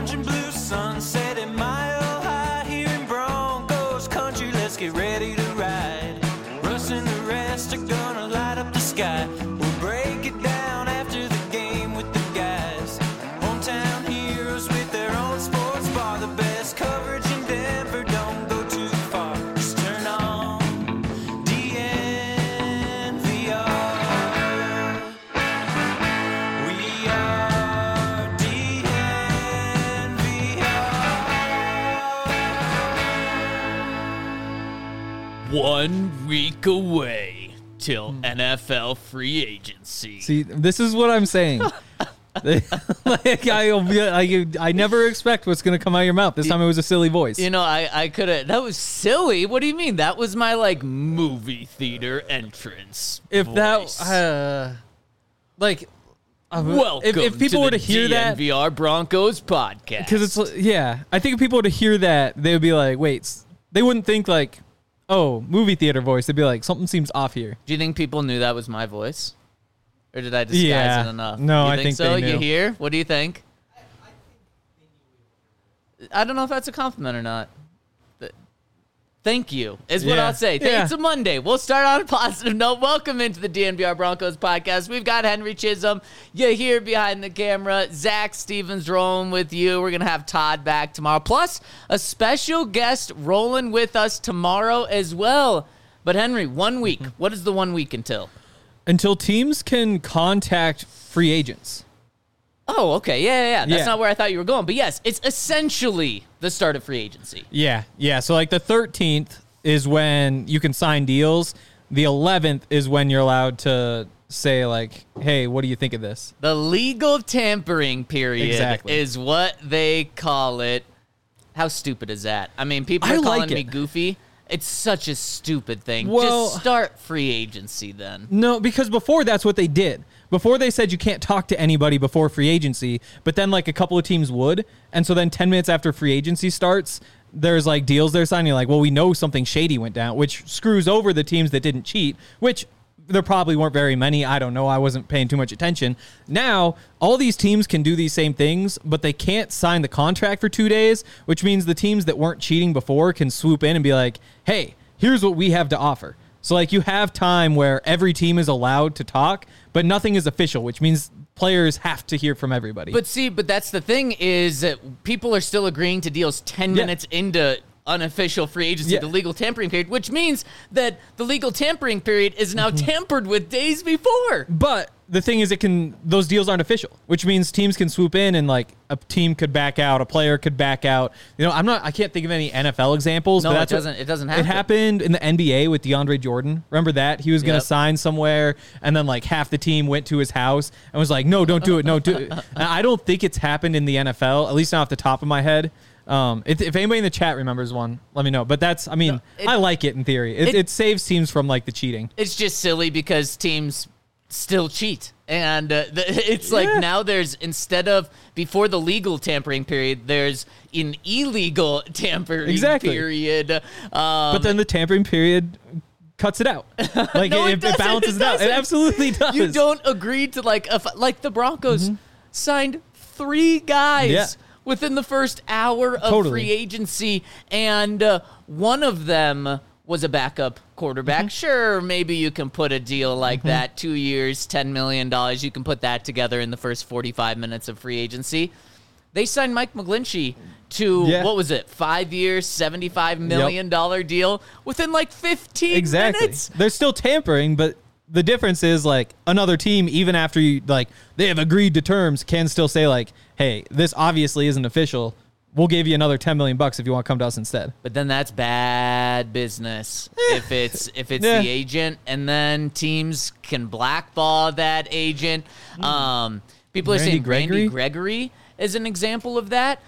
orange and blue sunset at Mile High here in Broncos country. Let's get ready to ride. Russ and the rest are gonna light up the sky. We'll break it down after the game with the guys. Hometown heroes with their own sports bar. The best coverage in Denver, don't go too far. Just turn on DNVR. We are DNVR. 1 week away till NFL free agency. See, this is what I'm saying. I never expect what's going to come out of your mouth. This time it was a silly voice. You know, I could have. That was silly. What do you mean? That was my like movie theater entrance. If voice. that, Welcome if people to were the to hear that, DNVR Broncos podcast. because it's I think if people were to hear that, they would be like, wait, they wouldn't think like, oh, movie theater voice. They'd be like, something seems off here. Do you think people knew that was my voice? Or did I disguise it enough? No, you I think so. they knew. You hear? What do you think? I don't know if that's a compliment or not. But thank you is what Yeah. I'll say. Yeah. It's a Monday. We'll start on a positive note. Welcome into the DNVR Broncos podcast. We've got Henry Chisholm. You here behind the camera. Zach Stevens rolling with you. We're going to have Todd back tomorrow. Plus, a special guest rolling with us tomorrow as well. But Henry, 1 week. What is the 1 week until? Until teams can contact free agents. Oh, okay. Yeah. That's Yeah. not where I thought you were going. But yes, it's essentially the start of free agency. Yeah. So like the 13th is when you can sign deals. The 11th is when you're allowed to say like, hey, what do you think of this? The legal tampering period Exactly. is what they call it. How stupid is that? I mean, people I are like calling me it. goofy. It's such a stupid thing. Well- Just start free agency then. No, because before that's what they did. Before they said you can't talk to anybody before free agency, but then like a couple of teams would. And so then 10 minutes after free agency starts, there's like deals they're signing. Like, well, we know something shady went down, which screws over the teams that didn't cheat, which there probably weren't very many. I don't know. I wasn't paying too much attention. Now, all these teams can do these same things, but they can't sign the contract for 2 days, which means the teams that weren't cheating before can swoop in and be like, hey, here's what we have to offer. So, like, you have time where every team is allowed to talk, but nothing is official, which means players have to hear from everybody. But that's the thing is that people are still agreeing to deals 10 minutes into unofficial free agency, the legal tampering period, which means that the legal tampering period is now tampered with days before. But the thing is, those deals aren't official, which means teams can swoop in and like a team could back out, a player could back out. You know, I can't think of any NFL examples. No, but it doesn't happen. It happened in the NBA with DeAndre Jordan. Remember that? He was going to Yep. sign somewhere, and then like half the team went to his house and was like, no, don't do it. No, do it. And I don't think it's happened in the NFL, at least not off the top of my head. If anybody in the chat remembers one, let me know. But I like it in theory. It saves teams from like the cheating. It's just silly because teams still cheat. And it's like now there's, instead of before the legal tampering period, there's an illegal tampering period. But then the tampering period cuts it out. Like No, it balances it out. It absolutely does. You don't agree to like the Broncos signed 3 guys within the first hour of free agency, and one of them was a backup quarterback. Sure, maybe you can put a deal like that, 2 years, $10 million. You can put that together in the first 45 minutes of free agency. They signed Mike McGlinchey to, what was it, 5 years, $75 million deal within like 15 minutes. They're still tampering, but the difference is like another team, even after they have agreed to terms, can still say like, hey, this obviously isn't official. We'll give you another $10 million if you want to come to us instead. But then that's bad business if it's the agent, and then teams can blackball that agent. People are saying Randy Gregory is an example of that.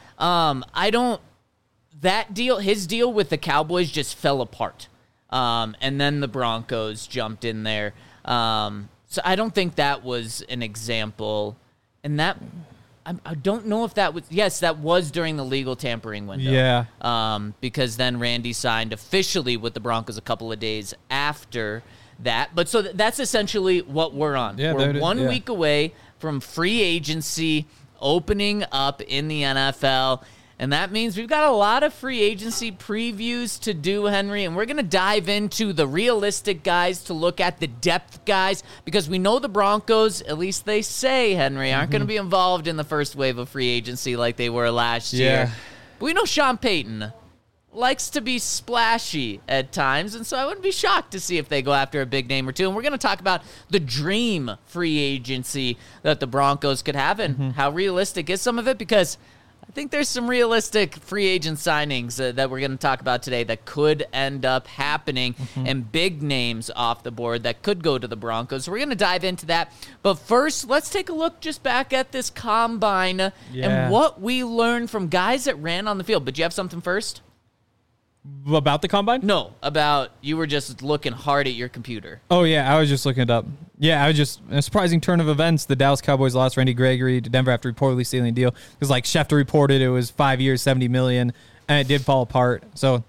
His deal with the Cowboys just fell apart. And then the Broncos jumped in there. So I don't think that was an example. And that, I don't know if that was, that was during the legal tampering window. Yeah. Because then Randy signed officially with the Broncos a couple of days after that. But so that's essentially what we're on. Yeah, we're 1 week away from free agency opening up in the NFL. And that means we've got a lot of free agency previews to do, Henry, and we're going to dive into the realistic guys to look at the depth guys because we know the Broncos, at least they say, Henry, aren't going to be involved in the first wave of free agency like they were last year. But we know Sean Payton likes to be splashy at times, and so I wouldn't be shocked to see if they go after a big name or two. And we're going to talk about the dream free agency that the Broncos could have and how realistic is some of it because I think there's some realistic free agent signings that we're going to talk about today that could end up happening and big names off the board that could go to the Broncos. So we're going to dive into that. But first, let's take a look just back at this combine and what we learned from guys that ran on the field. But you have something first? About the combine? No, about you were just looking hard at your computer. Oh, yeah, I was just looking it up. Yeah, I was just, a surprising turn of events. The Dallas Cowboys lost Randy Gregory to Denver after reportedly stealing a deal. Because, like, Schefter reported it was 5 years, $70 million, and it did fall apart. So,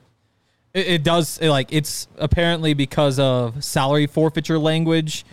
it's apparently because of salary forfeiture language.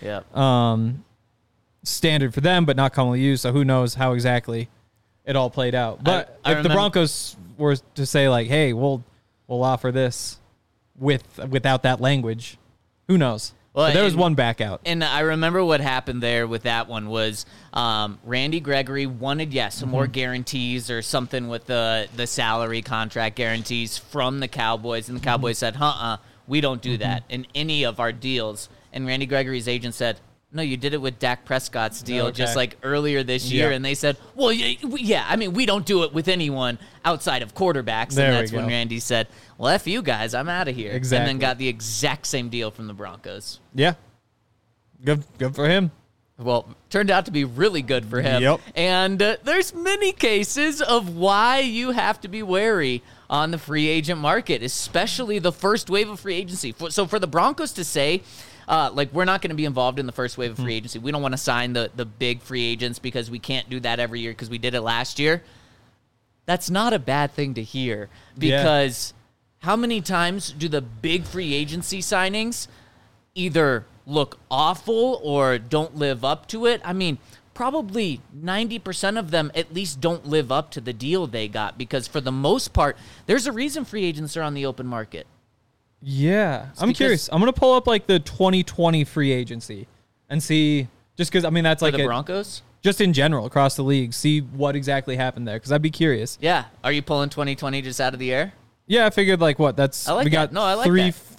Standard for them, but not commonly used. So, who knows how exactly it all played out. But if the Broncos were to say, like, hey, we'll offer this without that language, who knows? Well, there was one back out. And I remember what happened there with that one was Randy Gregory wanted, some more guarantees or something with the salary contract guarantees from the Cowboys. And the Cowboys said, we don't do that in any of our deals. And Randy Gregory's agent said, no, you did it with Dak Prescott's deal just like earlier this year. And they said, well, I mean, we don't do it with anyone outside of quarterbacks. And that's when Randy said, well, F you guys, I'm out of here. Exactly. And then got the exact same deal from the Broncos. Yeah. Good for him. Well, turned out to be really good for him. Yep. And there's many cases of why you have to be wary on the free agent market, especially the first wave of free agency. So for the Broncos to say, we're not going to be involved in the first wave of free agency. We don't want to sign the big free agents because we can't do that every year because we did it last year. That's not a bad thing to hear because how many times do the big free agency signings either look awful or don't live up to it? I mean, probably 90% of them at least don't live up to the deal they got because for the most part, there's a reason free agents are on the open market. Yeah, I'm curious. I'm going to pull up like the 2020 free agency and see, just because, I mean, that's like the Broncos? Just in general, across the league, see what exactly happened there, because I'd be curious. Yeah. Are you pulling 2020 just out of the air? Yeah, I figured like what? I like that. No, I like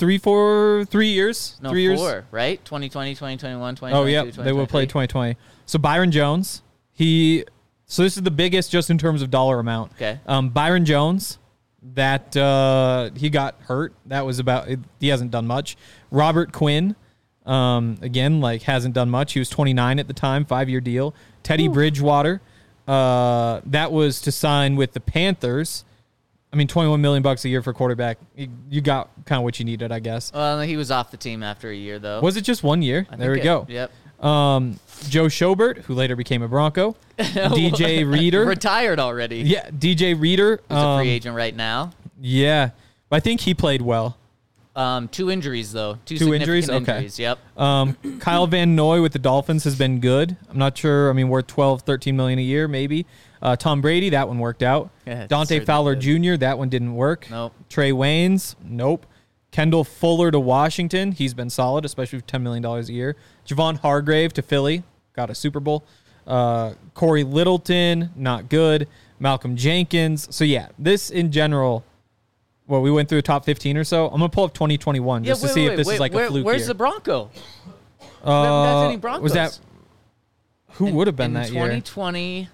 3 years. No, 3 years. 4, right? 2020, 2021, 2022, Oh, yeah, they will play 2020. So Byron Jones, so this is the biggest just in terms of dollar amount. Okay. Byron Jones, that he got hurt. That was he hasn't done much. Robert Quinn, again, like hasn't done much. He was 29 at the time, 5-year deal. Teddy Bridgewater, that was to sign with the Panthers. I mean, $21 million a year for quarterback. You got kind of what you needed, I guess. Well, he was off the team after a year, though. Was it just 1 year? There we go. Yep. Joe Schobert, who later became a Bronco. DJ Reader. Retired already. Yeah, DJ Reader. He's a free agent right now. Yeah. But I think he played well. 2 injuries, though. Two injuries? Okay. Injuries, yep. Kyle Van Noy with the Dolphins has been good. I'm not sure. I mean, worth $12, $13 million a year, maybe. Tom Brady, that one worked out. Yeah, Dante Fowler Jr., that one didn't work. Nope. Trey Waynes, nope. Kendall Fuller to Washington, he's been solid, especially with $10 million a year. Javon Hargrave to Philly, got a Super Bowl. Corey Littleton, not good. Malcolm Jenkins. So, yeah, this in general, well, we went through the top 15 or so. I'm going to pull up 2021 just to see if this is like a fluke Where's year. the Bronco? We haven't got any Broncos. Was that, who would have been that year? year? 2020.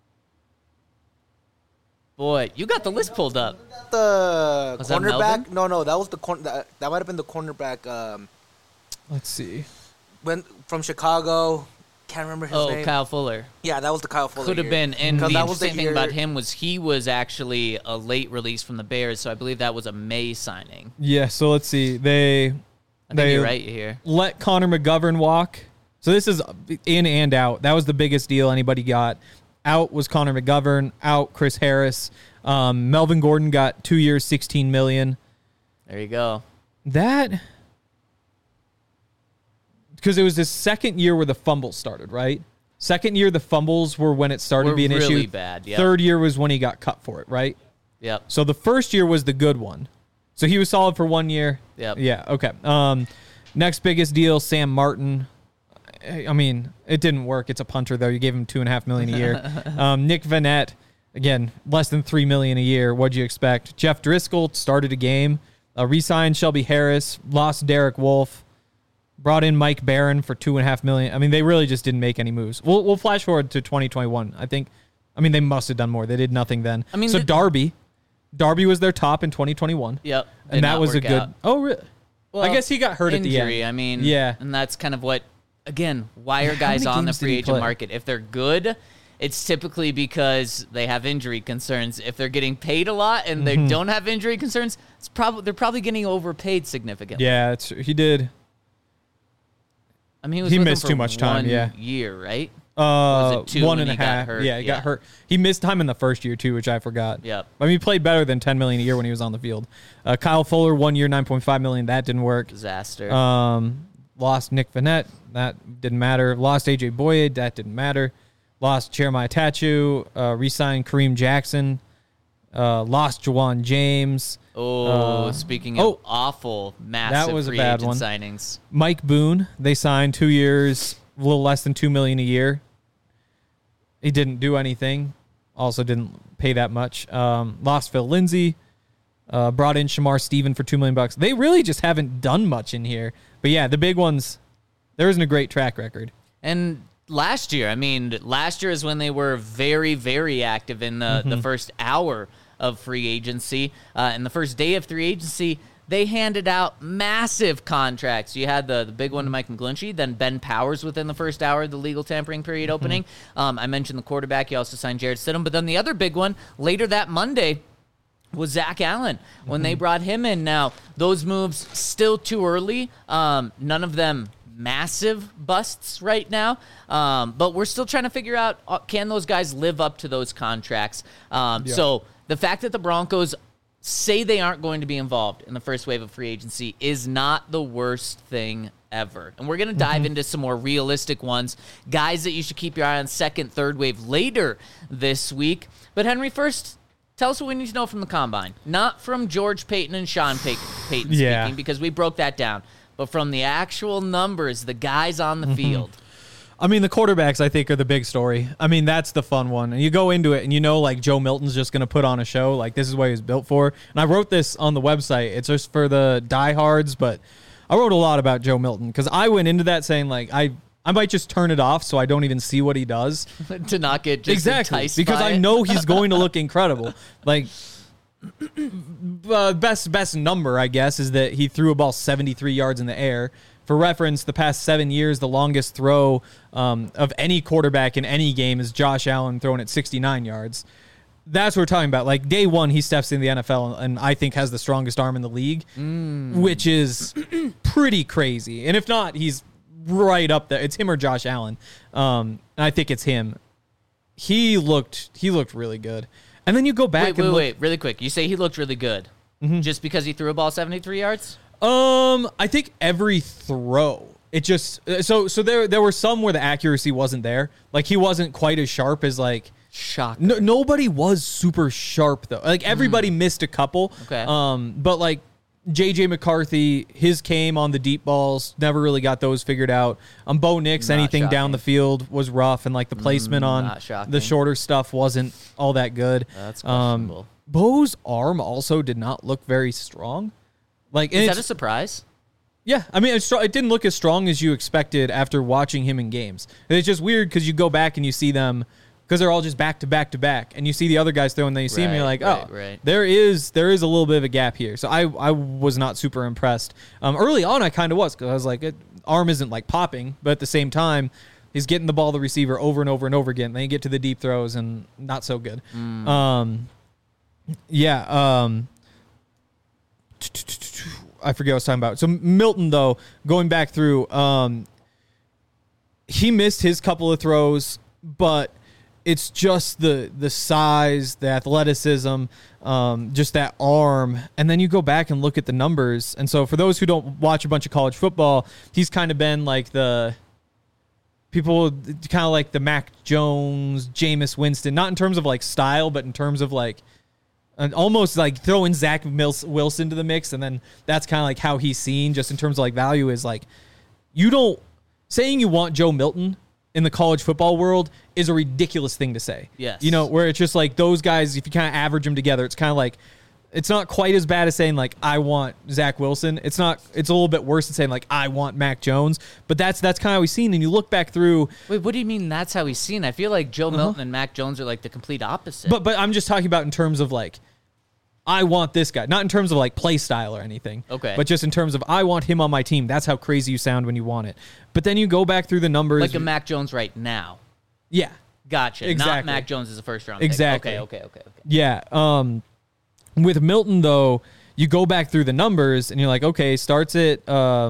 Boy, you got the list pulled up. The was cornerback? No, that was the corner. That might have been the cornerback. Let's see. From Chicago. Can't remember his name. Oh, Kyle Fuller. Yeah, that was the Kyle Fuller. Could have been. And the that was interesting thing about him was he was actually a late release from the Bears, so I believe that was a May signing. Yeah, so let's see. I think you're right here. Let Connor McGovern walk. So this is in and out. That was the biggest deal anybody got. Out was Connor McGovern. Out Chris Harris. Melvin Gordon got 2 years, $16 million. There you go. That, because it was his second year where the fumble started, right? Second year, the fumbles were when it started to be an really issue. Bad. Yep. Third year was when he got cut for it, right? Yep. So the first year was the good one. So he was solid for 1 year. Yep. Yeah. Okay. Next biggest deal, Sam Martin. I mean, it didn't work. It's a punter though. You gave him $2.5 million a year. Nick Vannett, again, less than $3 million a year. What'd you expect? Jeff Driscoll started a game. Re-signed Shelby Harris. Lost Derek Wolfe. Brought in Mike Barron for $2.5 million. I mean, they really just didn't make any moves. We'll flash forward to 2021. I mean, they must have done more. They did nothing then. I mean, so Darby was their top in 2021. Yep, and that was a good. Out. Oh, really? Well, I guess he got hurt injury, at the end. I mean, yeah, and that's kind of what. Again, why are guys on the free agent market? If they're good, it's typically because they have injury concerns. If they're getting paid a lot and they don't have injury concerns, they're probably getting overpaid significantly. Yeah, he did. I mean, he missed too much time. Year, right? Was it 1.5? Got hurt? Yeah, he got hurt. He missed time in the first year too, which I forgot. Yep. I mean, he played better than $10 million a year when he was on the field. Kyle Fuller, 1 year, $9.5 million. That didn't work. Disaster. Lost Nick Vannett. That didn't matter. Lost AJ Boyd. That didn't matter. Lost Jeremiah Tachu. Re-signed Kareem Jackson. Lost Jawan James. Speaking of awful, massive that was free a bad agent one. signings. Mike Boone, they signed 2 years, a little less than $2 million a year. He didn't do anything. Also didn't pay that much. Lost Phil Lindsay. Brought in Shamar Stephen for $2 million. They really just haven't done much in here. But yeah, the big ones, there isn't a great track record. And last year is when they were very, very active in the first hour of free agency. And the first day of free agency, they handed out massive contracts. You had the big one to Mike McGlinchey, then Ben Powers within the first hour of the legal tampering period opening. I mentioned the quarterback. You also signed Jared Stidham. But then the other big one later that Monday was Zach Allen when they brought him in. Now, those moves still too early. None of them massive busts right now, but we're still trying to figure out, can those guys live up to those contracts? So the fact that the Broncos say they aren't going to be involved in the first wave of free agency is not the worst thing ever. And we're going to dive into some more realistic ones, guys that you should keep your eye on second, third wave later this week. But Henry, first, tell us what we need to know from the Combine. Not from George Payton and Sean Payton speaking, because we broke that down, but from the actual numbers, the guys on the field. I mean, the quarterbacks, I think, are the big story. I mean, that's the fun one. And you go into it and you know, like, Joe Milton's just going to put on a show. Like, this is what he was built for. And I wrote this on the website. It's just for the diehards, but I wrote a lot about Joe Milton because I went into that saying, like, I might just turn it off so I don't even see what he does. To not get just enticed because by I know he's going to look incredible. Like, best number, I guess, is that he threw a ball 73 yards in the air. For reference, the past 7 years, the longest throw of any quarterback in any game is Josh Allen throwing at 69 yards. That's what we're talking about. Like, day one, he steps in the NFL and I think has the strongest arm in the league, which is pretty crazy. And if not, he's right up there. It's him or Josh Allen. And I think it's him. He looked really good. And then you go back Wait, really quick. You say he looked really good just because he threw a ball 73 yards? I think every throw, it just so there were some where the accuracy wasn't there. Like, he wasn't quite as sharp as, like, Shocker. Nobody was super sharp though. Like, everybody missed a couple. Okay. But like JJ McCarthy, his came on the deep balls, never really got those figured out. Bo Nix, anything down the field was rough, and like the placement on the shorter stuff wasn't all that good. That's questionable. Bo's arm also did not look very strong. Like, is that a surprise? Yeah, I mean, it didn't look as strong as you expected after watching him in games. And it's just weird because you go back and you see them because they're all just back to back to back, and you see the other guys throwing, then you see him, and you're like, there is a little bit of a gap here. So I was not super impressed. Early on, I kind of was because I was like, arm isn't like popping, but at the same time, he's getting the ball to the receiver over and over and over again. Then you get to the deep throws and not so good. I forget what I was talking about. So Milton, though, going back through, he missed his couple of throws, but it's just the size, the athleticism, just that arm. And then you go back and look at the numbers. And so for those who don't watch a bunch of college football, he's kind of been like the people kind of like the Mac Jones, Jameis Winston, not in terms of like style, but in terms of like almost like throwing Zach Wilson to the mix. And then that's kind of like how he's seen just in terms of like value is like, saying you want Joe Milton in the college football world is a ridiculous thing to say. Yes. Where it's just like those guys, if you kind of average them together, it's kind of like, it's not quite as bad as saying like, I want Zach Wilson. It's a little bit worse than saying like, I want Mac Jones, but that's kind of how he's seen. And you look back through. Wait, what do you mean that's how he's seen? I feel like Joe Milton and Mac Jones are like the complete opposite. But I'm just talking about in terms of like, I want this guy, not in terms of like play style or anything. Okay. But just in terms of I want him on my team. That's how crazy you sound when you want it. But then you go back through the numbers. Like a Mac Jones right now. Yeah. Gotcha. Exactly. Not Mac Jones as a first round exactly. pick. Okay. Yeah. With Milton though, you go back through the numbers and you're like, okay, starts at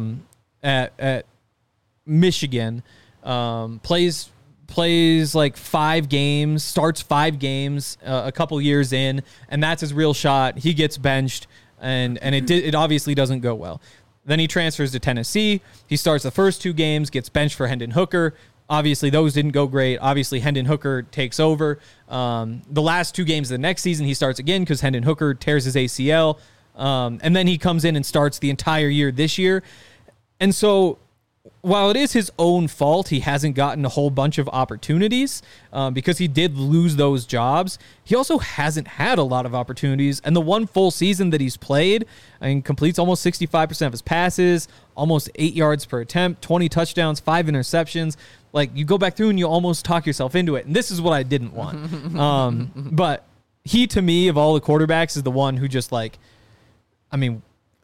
Michigan, plays like 5 games, starts 5 games a couple years in, and that's his real shot. He gets benched, and it obviously doesn't go well. Then he transfers to Tennessee. He starts the first 2 games, gets benched for Hendon Hooker. Obviously, those didn't go great. Obviously, Hendon Hooker takes over. The last 2 games of the next season, he starts again because Hendon Hooker tears his ACL. And then he comes in and starts the entire year this year. And so while it is his own fault, he hasn't gotten a whole bunch of opportunities because he did lose those jobs. He also hasn't had a lot of opportunities. And the one full season that he's played, completes almost 65% of his passes, almost 8 yards per attempt, 20 touchdowns, 5 interceptions. Like, you go back through and you almost talk yourself into it. And this is what I didn't want. But he, to me, of all the quarterbacks, is the one who just like, I mean,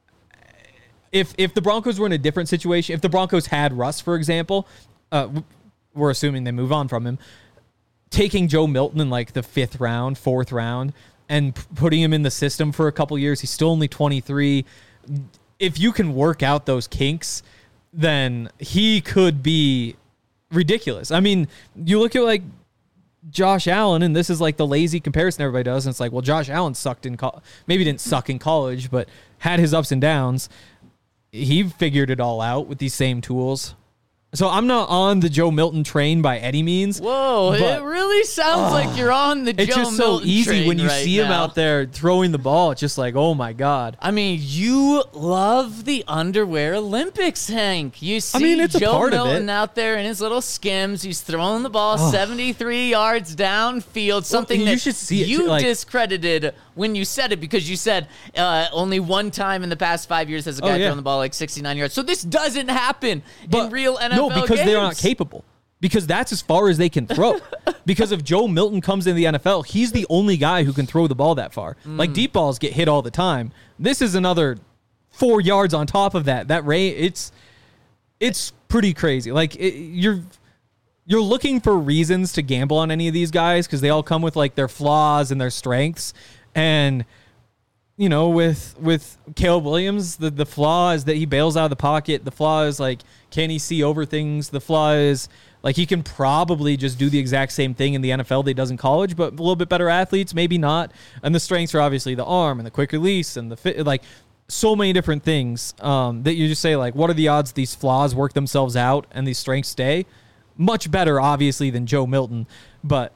if the Broncos were in a different situation, if the Broncos had Russ, for example, we're assuming they move on from him, taking Joe Milton in like the 5th round, 4th round, and putting him in the system for a couple years, he's still only 23. If you can work out those kinks, then he could be ridiculous. I mean, you look at like Josh Allen, and this is like the lazy comparison everybody does, and it's like, well, Josh Allen sucked in maybe didn't suck in college, but had his ups and downs. He figured it all out with these same tools. So I'm not on the Joe Milton train by any means. Whoa, it really sounds like you're on the Joe Milton train. It's just so easy when you right see him out there throwing the ball. It's just like, oh my God. I mean, you love the Underwear Olympics, Hank. You see it's Joe a part Milton of it. out there in his little Skims. He's throwing the ball 73 yards downfield, something you that should see it, you like, discredited when you said it because you said only one time in the past 5 years has a guy thrown the ball like 69 yards. So this doesn't happen in real NFL No, because games. they're not capable. Because that's as far as they can throw. Because if Joe Milton comes in the NFL, he's the only guy who can throw the ball that far. Like, deep balls get hit all the time. This is another 4 yards on top of that. That range, it's pretty crazy. Like, you're looking for reasons to gamble on any of these guys because they all come with like their flaws and their strengths. And you know, with Caleb Williams, the flaw is that he bails out of the pocket. The flaw is like, can he see over things? The flaw is like, he can probably just do the exact same thing in the NFL that he does in college, but a little bit better athletes, maybe not. And the strengths are obviously the arm and the quick release and the fit, like so many different things that you just say like, what are the odds these flaws work themselves out and these strengths stay? Much better, obviously, than Joe Milton, but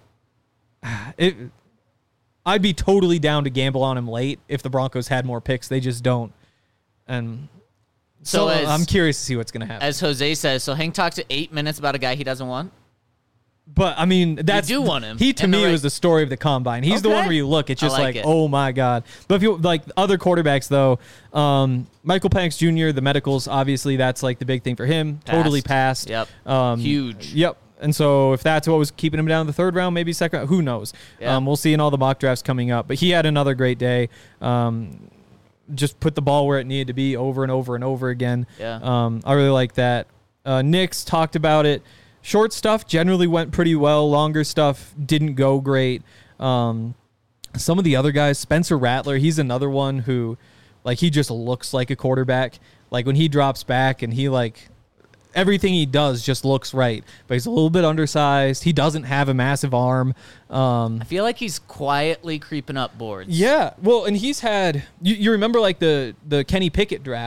I'd be totally down to gamble on him late if the Broncos had more picks. They just don't. And so I'm curious to see what's going to happen. As Jose says, so Hank talked to 8 minutes about a guy he doesn't want. But, I mean, that's... You do want him. He, to me, was the story of the combine. He's the one where you look, it's just like, oh, my God. But if you like other quarterbacks, though, Michael Penix Jr., the medicals, obviously, that's like the big thing for him. Totally passed. Yep. Huge. Yep. And so if that's what was keeping him down in the 3rd round, maybe 2nd round, who knows? Yeah. We'll see in all the mock drafts coming up. But he had another great day. Just put the ball where it needed to be over and over and over again. Yeah. I really like that. Nick's talked about it. Short stuff generally went pretty well. Longer stuff didn't go great. Some of the other guys, Spencer Rattler, he's another one who, like, he just looks like a quarterback. Like, when he drops back and he, like... everything he does just looks right, but he's a little bit undersized. He doesn't have a massive arm. I feel like he's quietly creeping up boards. Yeah, well, and he's had... You remember, like, the Kenny Pickett draft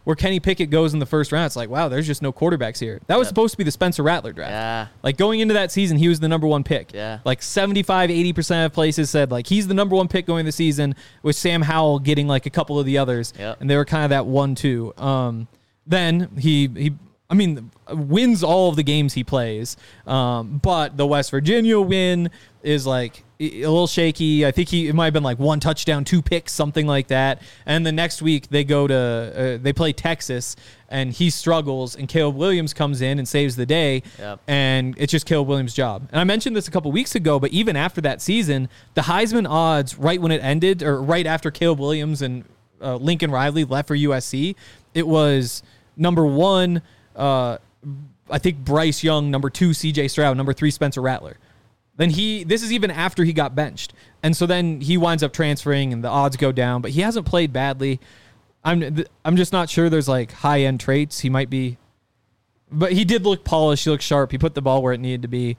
where Kenny Pickett goes in the first round. It's like, wow, there's just no quarterbacks here. That was supposed to be the Spencer Rattler draft. Yeah. Like going into that season, he was the number 1 pick. Yeah. Like 75-80% of places said like he's the number 1 pick going into the season, with Sam Howell getting like a couple of the others. Yep. And they were kind of that 1-2. Then he wins all of the games he plays. But the West Virginia win is like a little shaky. I think it might have been like 1 touchdown, 2 picks, something like that. And the next week they go to they play Texas, and he struggles, and Caleb Williams comes in and saves the day. Yep. And it's just Caleb Williams' job. And I mentioned this a couple weeks ago, but even after that season, the Heisman odds right when it ended, or right after Caleb Williams and Lincoln Riley left for USC, it was number 1, I think Bryce Young, number 2, CJ Stroud, number 3, Spencer Rattler. Then this is even after he got benched. And so then he winds up transferring and the odds go down, but he hasn't played badly. I'm just not sure there's like high-end traits. He might be, but he did look polished. He looked sharp. He put the ball where it needed to be.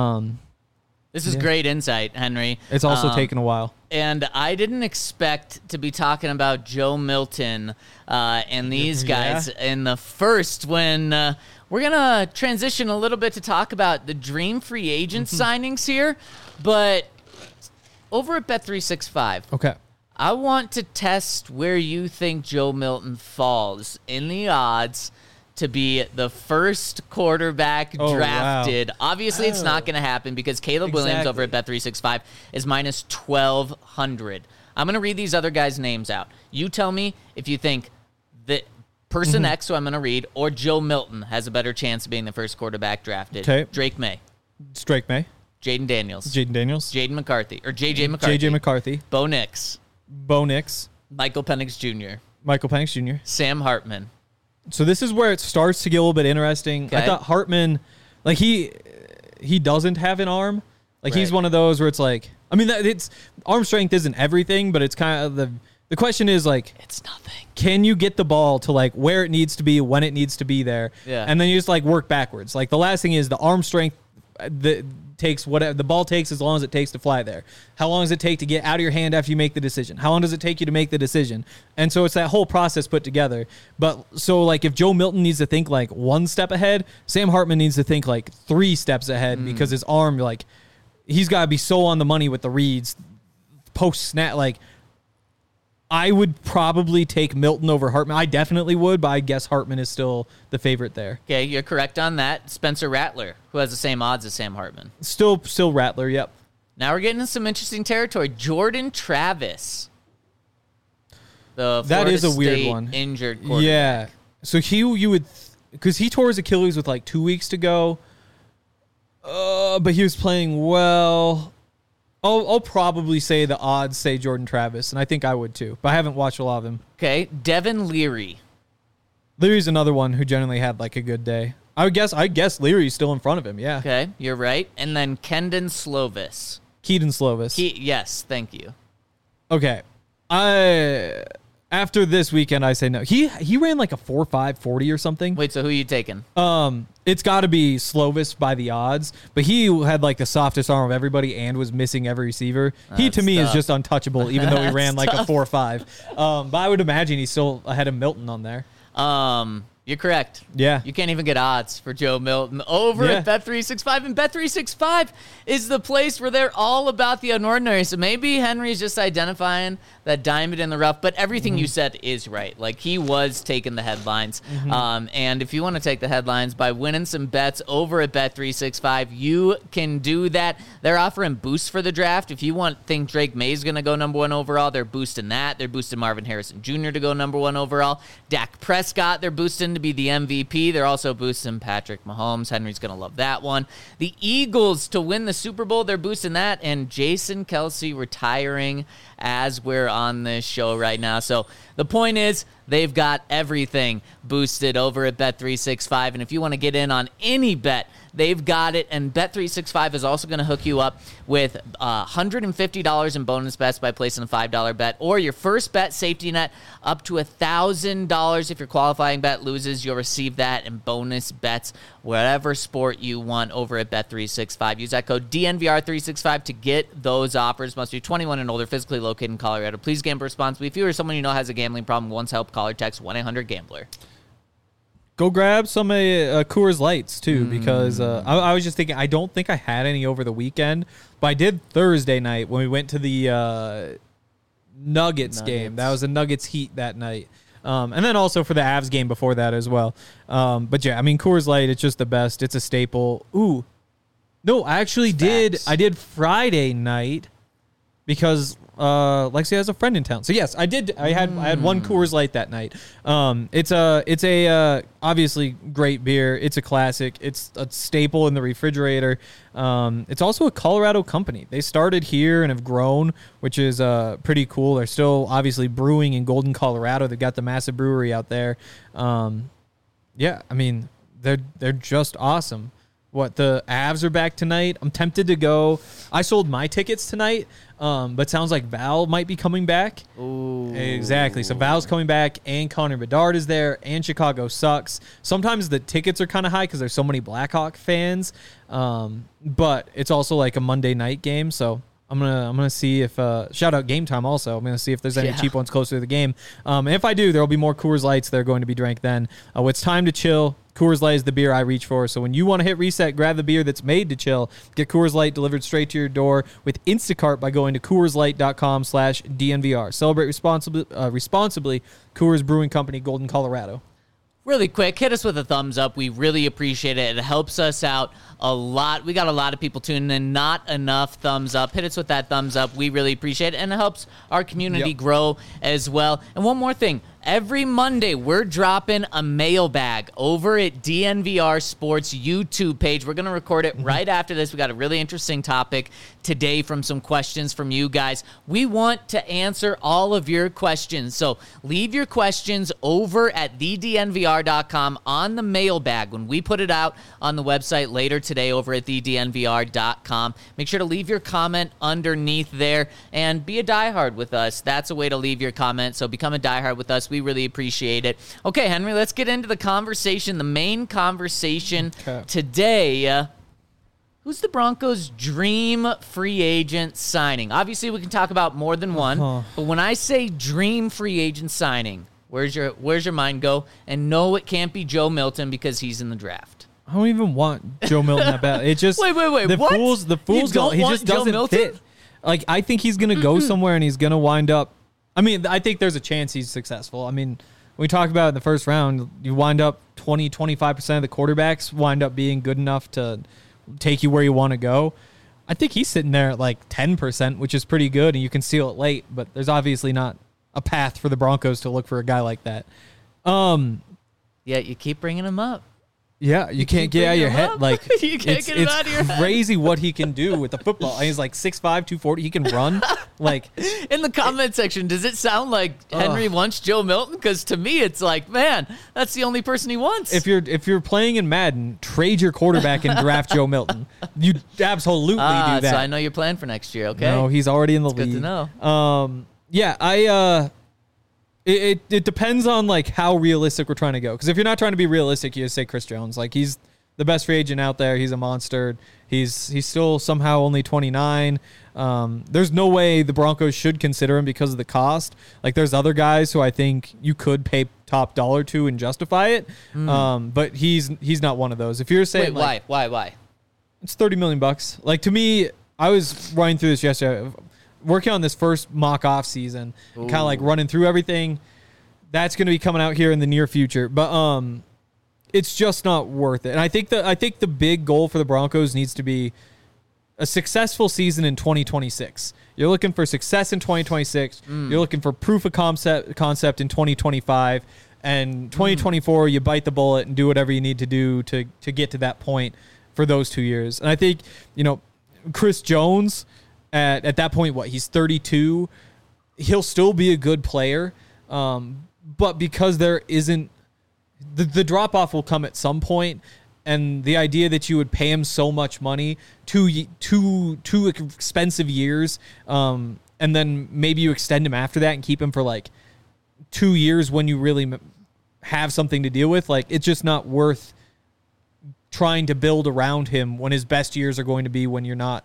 This is great insight, Henry. It's also taken a while. And I didn't expect to be talking about Joe Milton and these guys in the first when we're going to transition a little bit to talk about the dream free agent signings here. But over at Bet365, okay, I want to test where you think Joe Milton falls in the odds to be the first quarterback drafted. Wow. Obviously, it's not going to happen because Caleb Williams over at Bet365 is minus 1,200. I'm going to read these other guys' names out. You tell me if you think that person X, who I'm going to read, or Joe Milton has a better chance of being the first quarterback drafted. Okay. Drake May. It's Drake May. Jaden Daniels. Jaden McCarthy. Or J.J. McCarthy. J.J. McCarthy. Bo Nix. Michael Penix Jr. Sam Hartman. So this is where it starts to get a little bit interesting. Okay. I thought Hartman, like he doesn't have an arm. Like he's one of those where it's like, I mean, it's arm strength isn't everything, but it's kind of the question is like, it's nothing. Can you get the ball to like where it needs to be, when it needs to be there? Yeah. And then you just like work backwards. Like the last thing is the arm strength takes whatever the ball takes as long as it takes to fly there. How long does it take to get out of your hand after you make the decision? How long does it take you to make the decision? And so it's that whole process put together. But so like if Joe Milton needs to think like 1 step ahead, Sam Hartman needs to think like 3 steps ahead because his arm, like he's got to be so on the money with the reads post snap. Like I would probably take Milton over Hartman. I definitely would, but I guess Hartman is still the favorite there. Okay, you're correct on that. Spencer Rattler, who has the same odds as Sam Hartman. Still Rattler, yep. Now we're getting into some interesting territory. Jordan Travis. The that Florida is a weird State one. Injured quarterback. Yeah. So you would, because he tore his Achilles with like 2 weeks to go, but he was playing well. I'll probably say the odds say Jordan Travis, and I think I would too, but I haven't watched a lot of him. Okay, Devin Leary. Leary's another one who generally had like a good day. I guess Leary's still in front of him, yeah. Okay, you're right. And then Kedon Slovis. Yes, thank you. Okay. After this weekend, I say no. He ran like a 4.5 40 or something. Wait, so who are you taking? It's got to be Slovis by the odds, but he had like the softest arm of everybody and was missing every receiver. He to me is just untouchable, even though he ran like a 4.5. But I would imagine he's still ahead of Milton on there. You're correct. Yeah. You can't even get odds for Joe Milton over at Bet365. And Bet365 is the place where they're all about the unordinary. So maybe Henry's just identifying that diamond in the rough. But everything you said is right. Like, he was taking the headlines. And if you want to take the headlines by winning some bets over at Bet365, you can do that. They're offering boosts for the draft. If you think Drake May's going to go number 1 overall, they're boosting that. They're boosting Marvin Harrison Jr. to go number 1 overall. Dak Prescott, they're boosting to be the MVP. They're also boosting Patrick Mahomes. Henry's going to love that one. The Eagles to win the Super Bowl, they're boosting that. And Jason Kelce retiring as we're on this show right now. So the point is, they've got everything boosted over at Bet365. And if you want to get in on any bet, they've got it. And Bet365 is also going to hook you up with $150 in bonus bets by placing a $5 bet. Or your first bet safety net up to $1,000. If your qualifying bet loses, you'll receive that in bonus bets, whatever sport you want over at Bet365. Use that code DNVR365 to get those offers. Must be 21 and older, physically located in Colorado. Please gamble responsibly. If you or someone you know has a gambling problem, wants help, call call or text 1-800-GAMBLER. Go grab some Coors Lights, too, because I was just thinking, I don't think I had any over the weekend, but I did Thursday night when we went to the Nuggets game. That was a Nuggets Heat that night. And then also for the Avs game before that as well. But yeah, I mean, Coors Light, it's just the best. It's a staple. Ooh. No, I actually did. I did Friday night because Lexi has a friend in town. So yes, I did. I had one Coors Light that night. It's a obviously great beer. It's a classic. It's a staple in the refrigerator. It's also a Colorado company. They started here and have grown, which is pretty cool. They're still obviously brewing in Golden, Colorado. They've got the massive brewery out there. Yeah, I mean, they're just awesome. What, the Avs are back tonight? I'm tempted to go. I sold my tickets tonight, but sounds like Val might be coming back. Ooh. Exactly. So Val's coming back, and Connor Bedard is there, and Chicago sucks. Sometimes the tickets are kind of high because there's so many Blackhawk fans, but it's also like a Monday night game, so I'm gonna see if shout out Game Time also. I'm gonna see if there's any cheap ones closer to the game. And if I do, there will be more Coors Lights that are going to be drank then. It's time to chill. Coors Light is the beer I reach for. So when you want to hit reset, grab the beer that's made to chill. Get Coors Light delivered straight to your door with Instacart by going to CoorsLight.com/DNVR. Celebrate responsibly. Coors Brewing Company, Golden, Colorado. Really quick, hit us with a thumbs up. We really appreciate it. It helps us out a lot. We got a lot of people tuning in. Not enough thumbs up. Hit us with that thumbs up. We really appreciate it, and it helps our community grow as well. And one more thing. Every Monday, we're dropping a mailbag over at DNVR Sports YouTube page. We're going to record it right after this. We got a really interesting topic today from some questions from you guys. We want to answer all of your questions. So leave your questions over at thednvr.com on the mailbag. When we put it out on the website later today over at thednvr.com, make sure to leave your comment underneath there and be a diehard with us. That's a way to leave your comment. So become a diehard with us. We really appreciate it. Okay, Henry, let's get into the conversation, the main conversation today. Who's the Broncos' dream free agent signing? Obviously, we can talk about more than one, but when I say dream free agent signing, where's your mind go? And no, it can't be Joe Milton because he's in the draft. I don't even want Joe Milton that bad. It just wait. The what? fools don't. He just doesn't fit. Like, I think he's gonna go somewhere and he's gonna wind up. I mean, I think there's a chance he's successful. I mean, we talked about it in the first round, you wind up 20-25% of the quarterbacks wind up being good enough to take you where you want to go. I think he's sitting there at like 10%, which is pretty good, and you can seal it late, but there's obviously not a path for the Broncos to look for a guy like that. Yeah, you keep bringing him up. Yeah, you can't get out of your head. Like, you can't get him out of your head. It's crazy what he can do with the football. He's like 6'5", 240. He can run. Like, in the comment section, does it sound like Henry wants Joe Milton? Because to me, it's like, man, that's the only person he wants. If you're playing in Madden, trade your quarterback and draft Joe Milton. You absolutely do that. So I know you're playing for next year. Okay. No, he's already in the league. Good to know. Yeah, It depends on like how realistic we're trying to go. Because if you're not trying to be realistic, you just say Chris Jones. Like, he's the best free agent out there. He's a monster. He's still somehow only 29. There's no way the Broncos should consider him because of the cost. Like, there's other guys who I think you could pay top dollar to and justify it. But he's not one of those. If you're saying, wait, why? It's $30 million. Like, to me, I was running through this yesterday. Working on this first mock off season, kind of like running through everything. That's going to be coming out here in the near future, but it's just not worth it. And I think the big goal for the Broncos needs to be a successful season in 2026. You're looking for success in 2026. You're looking for proof of concept in 2025, and 2024 you bite the bullet and do whatever you need to do to get to that point for those 2 years. And I think, Chris Jones. At that point, he's 32, he'll still be a good player, but because there isn't, the drop-off will come at some point, and the idea that you would pay him so much money, two expensive years, and then maybe you extend him after that and keep him for like 2 years when you really have something to deal with, like, it's just not worth trying to build around him when his best years are going to be when you're not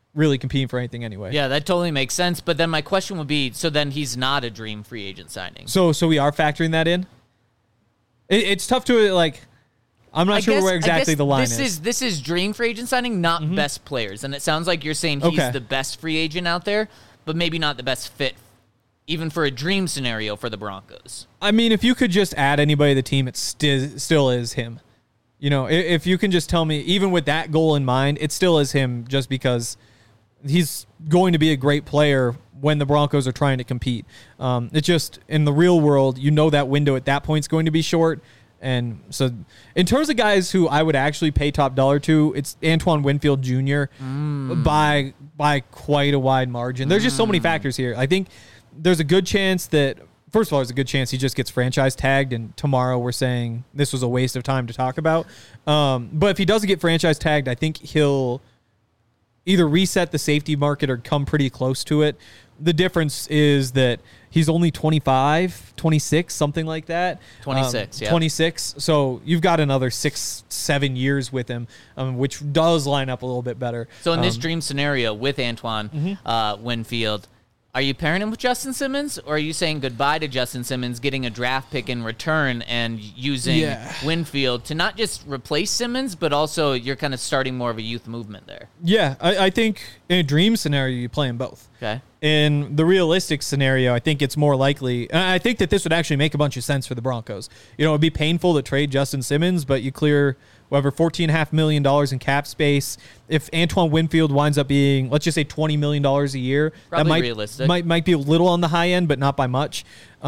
really competing for anything anyway. Yeah, that totally makes sense. But then my question would be, so then he's not a dream free agent signing. So we are factoring that in? It's tough to, like, I'm not sure where exactly the line is. This is dream free agent signing, not best players. And it sounds like you're saying he's the best free agent out there, but maybe not the best fit, even for a dream scenario for the Broncos. I mean, if you could just add anybody to the team, it still is him. You know, if you can just tell me, even with that goal in mind, it still is him just because he's going to be a great player when the Broncos are trying to compete. It's just, in the real world, you know that window at that point is going to be short. And so in terms of guys who I would actually pay top dollar to, it's Antoine Winfield Jr. by quite a wide margin. There's just so many factors here. I think there's a good chance that, first of all, there's a good chance he just gets franchise tagged, and tomorrow we're saying this was a waste of time to talk about. But if he doesn't get franchise tagged, I think he'll either reset the safety market or come pretty close to it. The difference is that he's only 25, 26, something like that. 26, yeah. 26. So you've got another 6-7 years with him, which does line up a little bit better. So in this dream scenario with Antoine Winfield, are you pairing him with Justin Simmons, or are you saying goodbye to Justin Simmons, getting a draft pick in return and using Winfield to not just replace Simmons, but also you're kind of starting more of a youth movement there? Yeah, I think in a dream scenario, you play them both. Okay. In the realistic scenario, I think it's more likely, and I think that this would actually make a bunch of sense for the Broncos. You know, it'd be painful to trade Justin Simmons, but you clear whatever, $14.5 million in cap space. If Antoine Winfield winds up being, let's just say, $20 million a year, probably that might be a little on the high end, but not by much.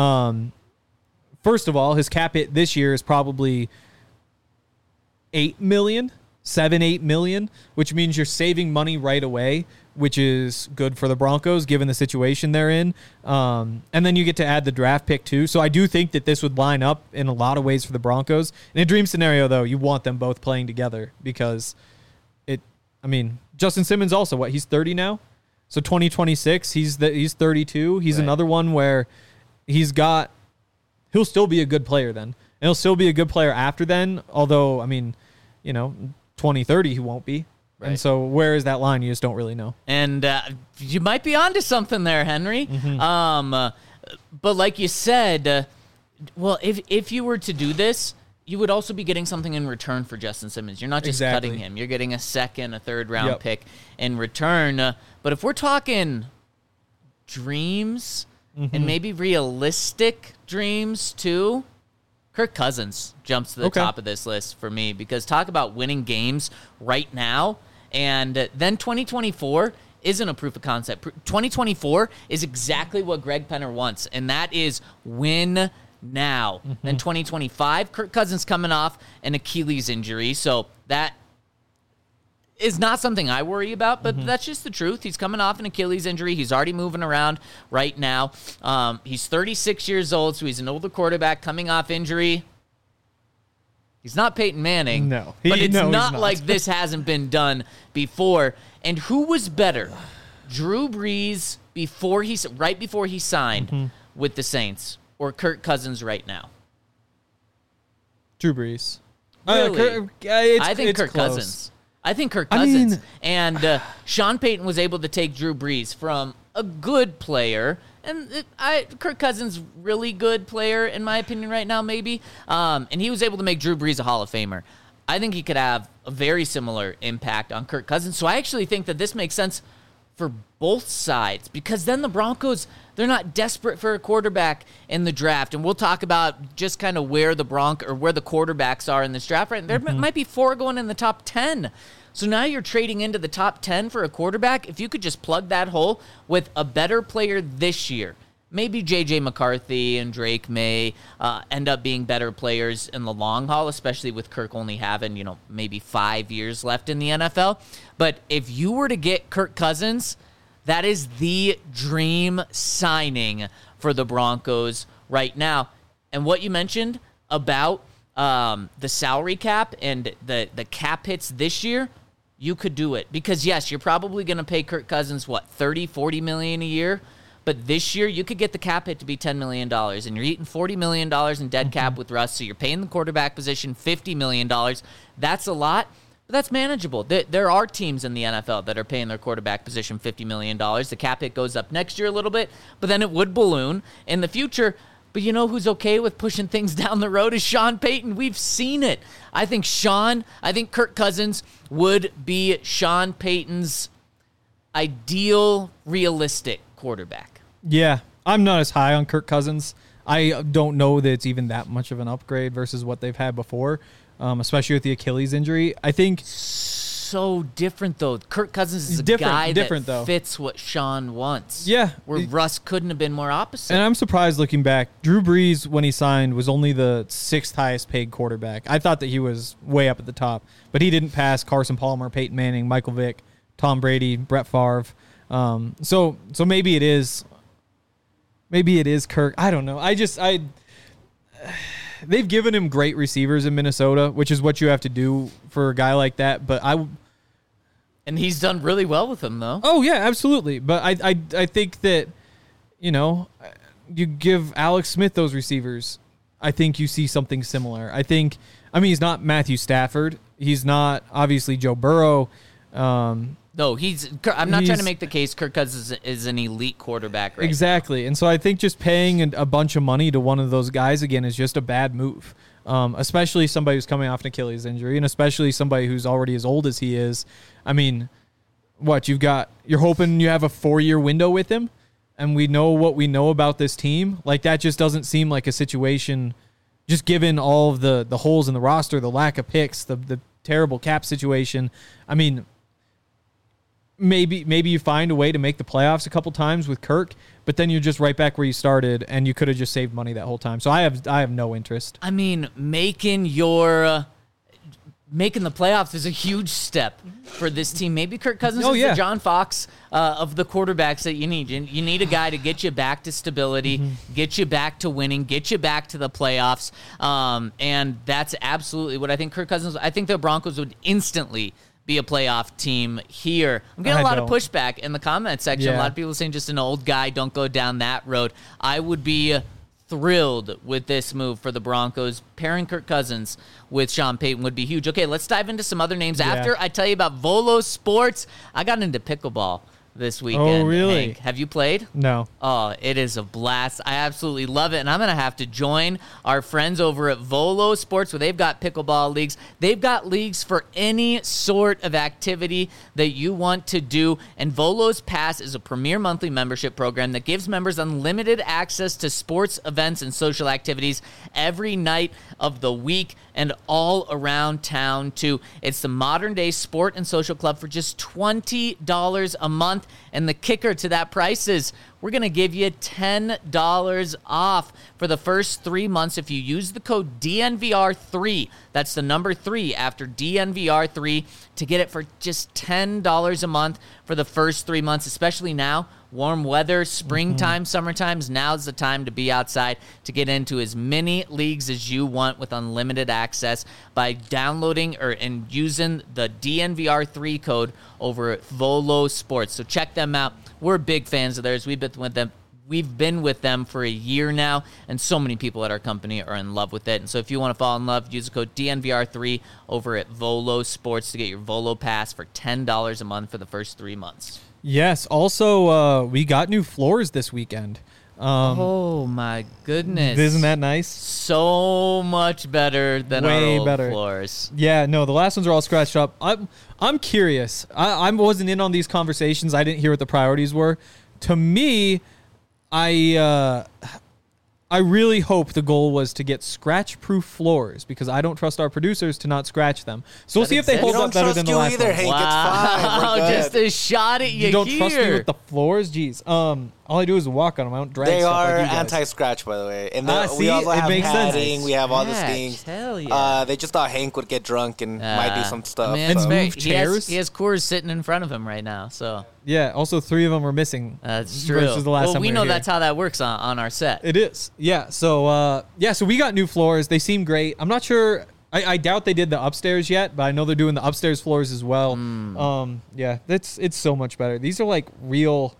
First of all, his cap hit this year is probably $8 million, $7-8 million, which means you're saving money right away, which is good for the Broncos given the situation they're in. And then you get to add the draft pick too. So I do think that this would line up in a lot of ways for the Broncos. In a dream scenario, though, you want them both playing together because Justin Simmons also, he's 30 now? So 2026, he's 32. He's another one where he'll still be a good player then. And he'll still be a good player after then, although, 2030 he won't be. Right. And so where is that line? You just don't really know. And you might be onto something there, Henry. But like you said, if you were to do this, you would also be getting something in return for Justin Simmons. You're not just cutting him. You're getting a second, a third round pick in return. But if we're talking dreams and maybe realistic dreams too, Kirk Cousins jumps to the top of this list for me, because talk about winning games right now. And then 2024 isn't a proof of concept. 2024 is exactly what Greg Penner wants, and that is win now. Then 2025, Kirk Cousins coming off an Achilles injury, so that is not something I worry about, but that's just the truth. He's coming off an Achilles injury. He's already moving around right now. He's 36 years old, so he's an older quarterback coming off injury. He's not Peyton Manning. No. But it's not like this hasn't been done before. And who was better? Drew Brees right before he signed with the Saints, or Kirk Cousins right now? Drew Brees. Really? I think Kirk Cousins. I think Kirk Cousins. And Sean Payton was able to take Drew Brees from a good player, and Kirk Cousins, really good player, in my opinion, right now, maybe. And he was able to make Drew Brees a Hall of Famer. I think he could have a very similar impact on Kirk Cousins. So I actually think that this makes sense for both sides, because then the Broncos, they're not desperate for a quarterback in the draft. And we'll talk about just kind of where the quarterbacks are in this draft. Right? There might be 4 going in the top 10. So now you're trading into the top 10 for a quarterback. If you could just plug that hole with a better player this year, maybe J.J. McCarthy and Drake may end up being better players in the long haul, especially with Kirk only having, maybe 5 years left in the NFL. But if you were to get Kirk Cousins, that is the dream signing for the Broncos right now. And what you mentioned about the salary cap and the cap hits this year, you could do it. Because, yes, you're probably going to pay Kirk Cousins, $30, $40 million a year? But this year, you could get the cap hit to be $10 million, and you're eating $40 million in dead cap with Russ, so you're paying the quarterback position $50 million. That's a lot. But But that's manageable. There are teams in the NFL that are paying their quarterback position $50 million. The cap hit goes up next year a little bit, but then it would balloon in the future. But you know who's okay with pushing things down the road is Sean Payton. We've seen it. I think Kirk Cousins would be Sean Payton's ideal, realistic quarterback. Yeah, I'm not as high on Kirk Cousins. I don't know that it's even that much of an upgrade versus what they've had before, especially with the Achilles injury. I think so different, though. Kirk Cousins is a guy that fits what Sean wants. Yeah. Where Russ couldn't have been more opposite. And I'm surprised looking back. Drew Brees, when he signed, was only the 6th highest paid quarterback. I thought that he was way up at the top, but he didn't pass Carson Palmer, Peyton Manning, Michael Vick, Tom Brady, Brett Favre. So maybe it is. Maybe it is Kirk. I don't know. They've given him great receivers in Minnesota, which is what you have to do for a guy like that. But and he's done really well with them, though. Oh yeah, absolutely. But I think that, you give Alex Smith those receivers, I think you see something similar. He's not Matthew Stafford. He's not obviously Joe Burrow. No, I'm not trying to make the case Kirk Cousins is an elite quarterback right Exactly. now. And so I think just paying a bunch of money to one of those guys, again, is just a bad move, especially somebody who's coming off an Achilles injury and especially somebody who's already as old as he is. I mean, you're hoping you have a 4-year window with him, and we know what we know about this team. Like, that just doesn't seem like a situation, just given all of the holes in the roster, the lack of picks, the terrible cap situation. I mean, Maybe you find a way to make the playoffs a couple times with Kirk, but then you're just right back where you started, and you could have just saved money that whole time. So I have no interest. I mean, making the playoffs is a huge step for this team. Maybe Kirk Cousins is the John Fox of the quarterbacks that you need. You need a guy to get you back to stability, get you back to winning, get you back to the playoffs, and that's absolutely what I think Kirk Cousins. I think the Broncos would instantly be a playoff team here. I'm getting a lot of pushback in the comment section. Yeah. A lot of people saying just an old guy, don't go down that road. I would be thrilled with this move for the Broncos. Pairing Kirk Cousins with Sean Payton would be huge. Okay, let's dive into some other names. After I tell you about Volo Sports, I got into pickleball this weekend. Oh, really? Hank, have you played? No. Oh, it is a blast. I absolutely love it, and I'm going to have to join our friends over at Volo Sports, where they've got pickleball leagues. They've got leagues for any sort of activity that you want to do, and Volo's Pass is a premier monthly membership program that gives members unlimited access to sports, events, and social activities every night of the week and all around town, too. It's the modern-day sport and social club for just $20 a month. And the kicker to that price is we're going to give you $10 off for the first 3 months if you use the code DNVR3. That's the number 3 after DNVR3 to get it for just $10 a month for the first 3 months, especially now. Warm weather, springtime, summertime, now's the time to be outside to get into as many leagues as you want with unlimited access by downloading and using the DNVR3 code over at Volo Sports. So check them out. We're big fans of theirs. We've been with them for a year now, and so many people at our company are in love with it. And so if you want to fall in love, use the code DNVR3 over at Volo Sports to get your Volo Pass for $10 a month for the first 3 months. Yes. Also, we got new floors this weekend. Oh my goodness! Isn't that nice? So much better than our old floors. Yeah, no, the last ones are all scratched up. I'm curious. I wasn't in on these conversations. I didn't hear what the priorities were. To me, I really hope the goal was to get scratch-proof floors because I don't trust our producers to not scratch them. So we'll see if they hold up better than the last one. Hank. Wow, it's fine. Just a shot at you. You don't trust me with the floors? Jeez. All I do is walk on them. I don't drag stuff like you guys. They are anti-scratch, by the way. And see, we also have padding. Sense. We have all the things. Hell yeah. They just thought Hank would get drunk and might do some stuff. Man, so. move chairs. He has Coors sitting in front of him right now. So yeah. Also, 3 of them are missing. That's true. Versus the last time we were know here. that's how that works on our set. It is. Yeah. So so we got new floors. They seem great. I'm not sure. I doubt they did the upstairs yet, but I know they're doing the upstairs floors as well. Yeah, it's so much better. These are like real.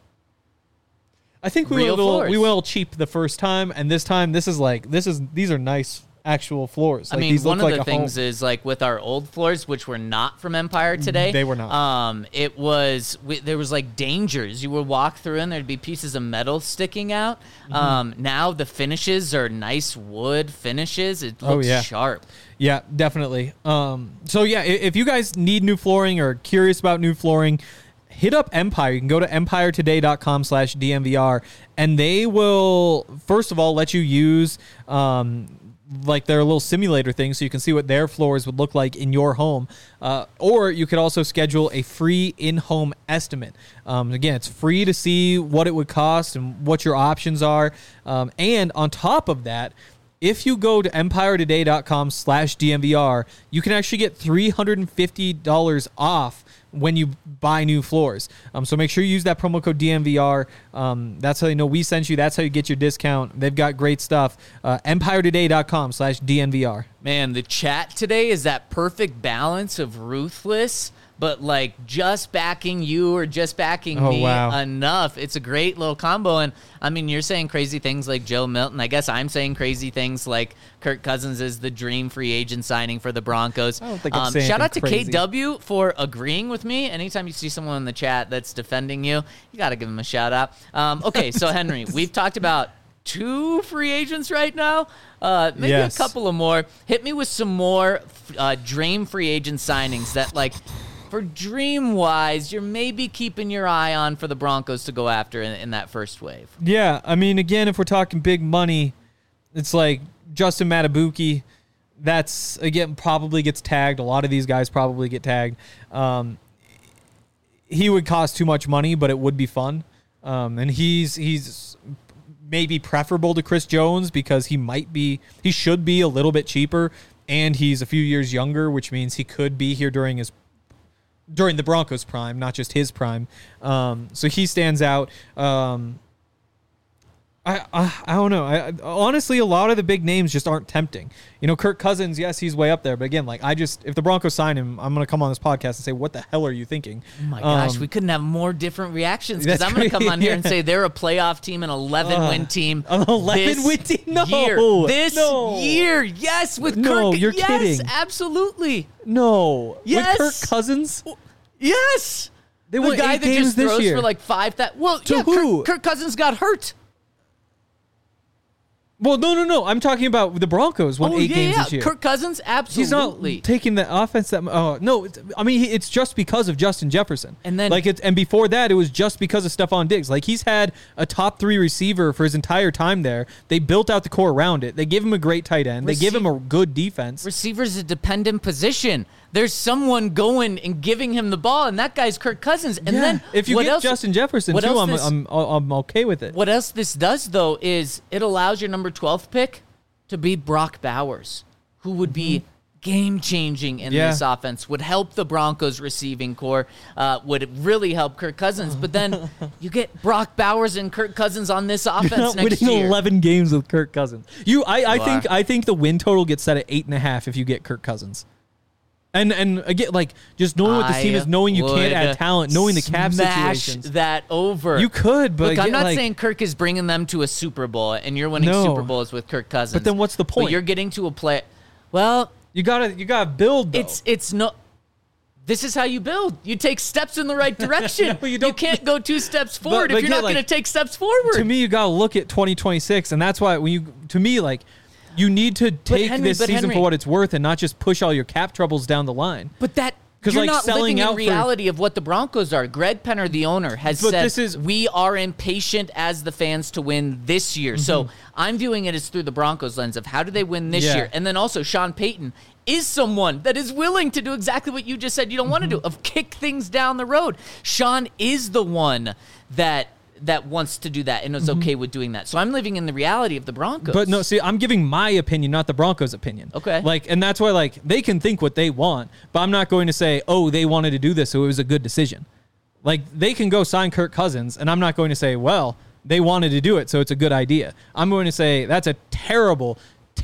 I think we went a little cheap the first time, and this time these are nice actual floors. I mean, one of the things is like with our old floors, which were not from Empire today. They were not. It was there was like dangers. You would walk through and there'd be pieces of metal sticking out. Now the finishes are nice wood finishes. It looks sharp. Yeah, definitely. So yeah, if you guys need new flooring or curious about new flooring, hit up Empire. You can go to empiretoday.com/DNVR, and they will, first of all, let you use like their little simulator thing so you can see what their floors would look like in your home. Or you could also schedule a free in-home estimate. Again, it's free to see what it would cost and what your options are. And on top of that, if you go to empiretoday.com/DNVR, you can actually get $350 off when you buy new floors. So make sure you use that promo code DNVR. That's how they know we sent you. That's how you get your discount. They've got great stuff. empiretoday.com/DNVR. Man, the chat today is that perfect balance of ruthless, but like just backing you or just backing me enough. It's a great little combo. And I mean, you're saying crazy things like Joe Milton. I guess I'm saying crazy things like Kirk Cousins is the dream free agent signing for the Broncos. I don't think I'm saying shout out to crazy. KW for agreeing with me. Anytime you see someone in the chat that's defending you, you got to give them a shout out. Okay, so Henry, we've talked about 2 free agents right now. Maybe a couple of more. Hit me with some more dream free agent signings that like, for dream-wise, you're maybe keeping your eye on for the Broncos to go after in that first wave. Yeah, I mean, again, if we're talking big money, it's like Justin Matabuki. That's, again, probably gets tagged. A lot of these guys probably get tagged. He would cost too much money, but it would be fun. And he's maybe preferable to Chris Jones because he should be a little bit cheaper, and he's a few years younger, which means he could be here during the Broncos' prime, not just his prime. So he stands out. I don't know. Honestly, a lot of the big names just aren't tempting. You know, Kirk Cousins, yes, he's way up there. But again, like if the Broncos sign him, I'm going to come on this podcast and say, what the hell are you thinking? Oh my gosh, we couldn't have more different reactions because I'm going to come on here and say they're a playoff team, an 11-win team. An 11-win team? No. This year. Yes, with Kirk. No, you're kidding. Yes, absolutely. No. Yes. With Kirk Cousins? Yes. They won 8 games that just this throws year. for like 5,000. Well, to who? Kirk Cousins got hurt. Well, no. I'm talking about the Broncos won 8 games this year. Kirk Cousins, absolutely. He's not taking the offense that. No. I mean, it's just because of Justin Jefferson. And then, and before that, it was just because of Stephon Diggs. Like, he's had a top 3 receiver for his entire time there. They built out the core around it. They give him a great tight end. They give him a good defense. Receiver's a dependent position. There's someone going and giving him the ball, and that guy's Kirk Cousins. And then if you get Justin Jefferson too, I'm okay with it. What else this does though is it allows your number 12th pick to be Brock Bowers, who would be game changing in this offense. Would help the Broncos receiving core. Would really help Kirk Cousins. But then you get Brock Bowers and Kirk Cousins on this offense next year. Winning 11 games with Kirk Cousins. I think the win total gets set at 8.5 if you get Kirk Cousins. And again, like, just knowing what this team is, knowing you can't add talent, knowing the cap situations. That over. You could, but look, I'm not saying Kirk is bringing them to a Super Bowl, and you're winning Super Bowls with Kirk Cousins. But then what's the point? But you're getting to a play. Well, you gotta build. Though. It's no. This is how you build. You take steps in the right direction. No, you can't go 2 steps forward if you're not going to take steps forward. To me, you gotta look at 2026, and that's why you need to take this season for what it's worth and not just push all your cap troubles down the line. But you're not living in reality of what the Broncos are. Greg Penner, the owner, has said we are impatient as the fans to win this year. So I'm viewing it as through the Broncos lens of how do they win this year. And then also Sean Payton is someone that is willing to do exactly what you just said you don't want to do, of kick things down the road. Sean is the one that wants to do that and is okay with doing that. So I'm living in the reality of the Broncos. But no, see, I'm giving my opinion, not the Broncos' opinion. Okay. And that's why, they can think what they want, but I'm not going to say, oh, they wanted to do this, so it was a good decision. They can go sign Kirk Cousins, and I'm not going to say, well, they wanted to do it, so it's a good idea. I'm going to say that's a terrible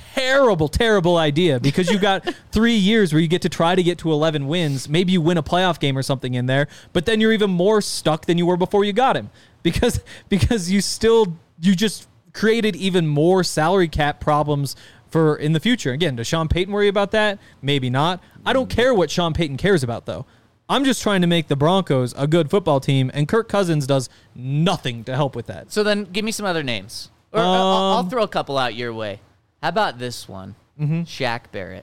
idea because you got 3 years where you get to try to get to 11 wins. Maybe you win a playoff game or something in there, but then you're even more stuck than you were before you got him because you just created even more salary cap problems for in the future. Again, does Sean Payton worry about that? Maybe not. I don't care what Sean Payton cares about, though. I'm just trying to make the Broncos a good football team, and Kirk Cousins does nothing to help with that. So then give me some other names. Or I'll throw a couple out your way. How about this one? Shaq Barrett.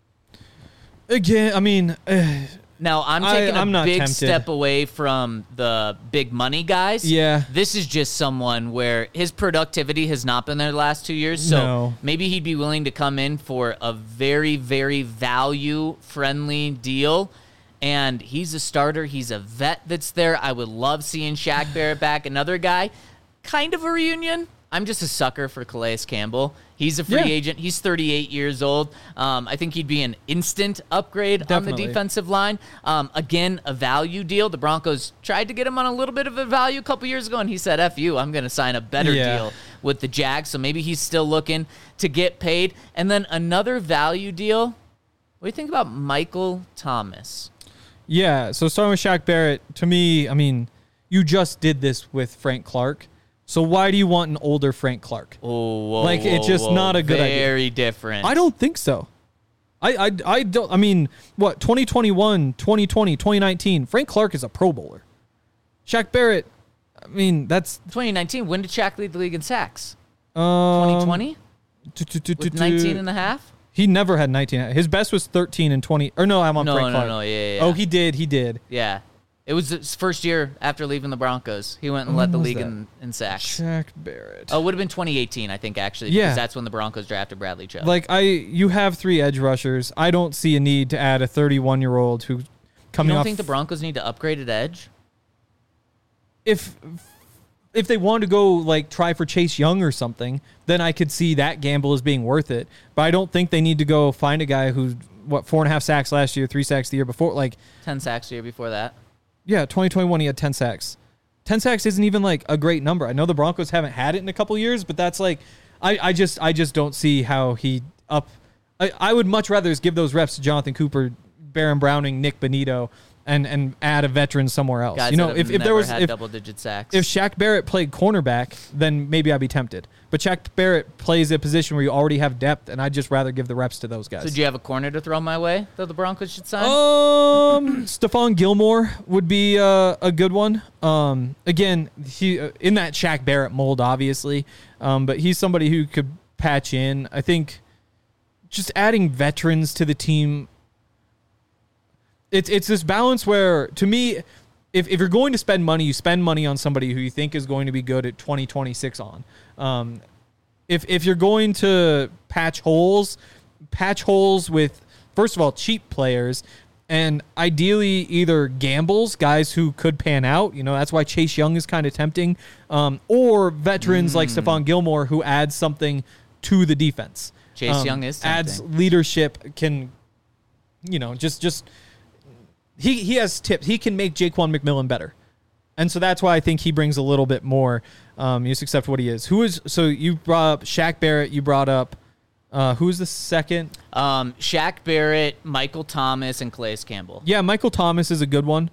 Again, I mean... Now, I'm taking I'm a not big tempted. step away from the big money guys. Yeah. This is just someone where his productivity has not been there the last 2 years. So No. maybe he'd be willing to come in for a very, very value-friendly deal. And he's a starter. He's a vet that's there. I would love seeing Shaq Barrett back. Another guy, kind of a reunion. I'm just a sucker for Calais Campbell. He's a free agent. He's 38 years old. I think he'd be an instant upgrade on the defensive line. Again, a value deal. The Broncos tried to get him on a little bit of a value a couple years ago, and he said, F you, I'm going to sign a better deal with the Jags. So maybe he's still looking to get paid. And then another value deal. What do you think about Michael Thomas? Yeah, so starting with Shaq Barrett, to me, I mean, you just did this with Frank Clark. So why do you want an older Frank Clark? It's just not a good idea. Very different. I don't think so. I don't. I mean, what, 2021, 2020, 2019, Frank Clark is a Pro Bowler. Shaq Barrett, I mean, that's... 2019, when did Shaq lead the league in sacks? 2020? With 19 and a half? He never had 19. His best was 13 and 20. Or no, I'm on Frank Clark. No, yeah. Oh, he did. Yeah. It was his first year after leaving the Broncos. He went and led the league in sacks. Shaq Barrett. Oh, it would have been 2018, I think, actually. Yeah. Because that's when the Broncos drafted Bradley Chubb. You have 3 edge rushers. I don't see a need to add a 31-year-old who coming off... You don't think the Broncos need to upgrade at edge? If they want to go, try for Chase Young or something, then I could see that gamble as being worth it. But I don't think they need to go find a guy who, 4.5 sacks last year, 3 sacks the year before. 10 sacks the year before that. Yeah, 2021 he had 10 sacks. 10 sacks isn't even a great number. I know the Broncos haven't had it in a couple years, but that's I just don't see how he up. I would much rather just give those reps to Jonathan Cooper, Baron Browning, Nick Bonito, and add a veteran somewhere else. Guys if there was double-digit sacks. If Shaq Barrett played cornerback, then maybe I'd be tempted. But Shaq Barrett plays a position where you already have depth, and I'd just rather give the reps to those guys. So do you have a corner to throw my way that the Broncos should sign? Stephon Gilmore would be a good one. Again, he in that Shaq Barrett mold, obviously, but he's somebody who could patch in. I think just adding veterans to the team. It's this balance where, to me, if you're going to spend money, you spend money on somebody who you think is going to be good at 2026 on. If you're going to patch holes with, first of all, cheap players, and ideally either gambles, guys who could pan out. That's why Chase Young is kind of tempting, or veterans like Stephon Gilmore who adds something to the defense. Chase Young is tempting. Adds leadership, can, just... He has tips. He can make Jaquan McMillan better. And so that's why I think he brings a little bit more, just accept what he is. So you brought up Shaq Barrett. You brought up, who's the second? Shaq Barrett, Michael Thomas, and Calais Campbell. Yeah, Michael Thomas is a good one.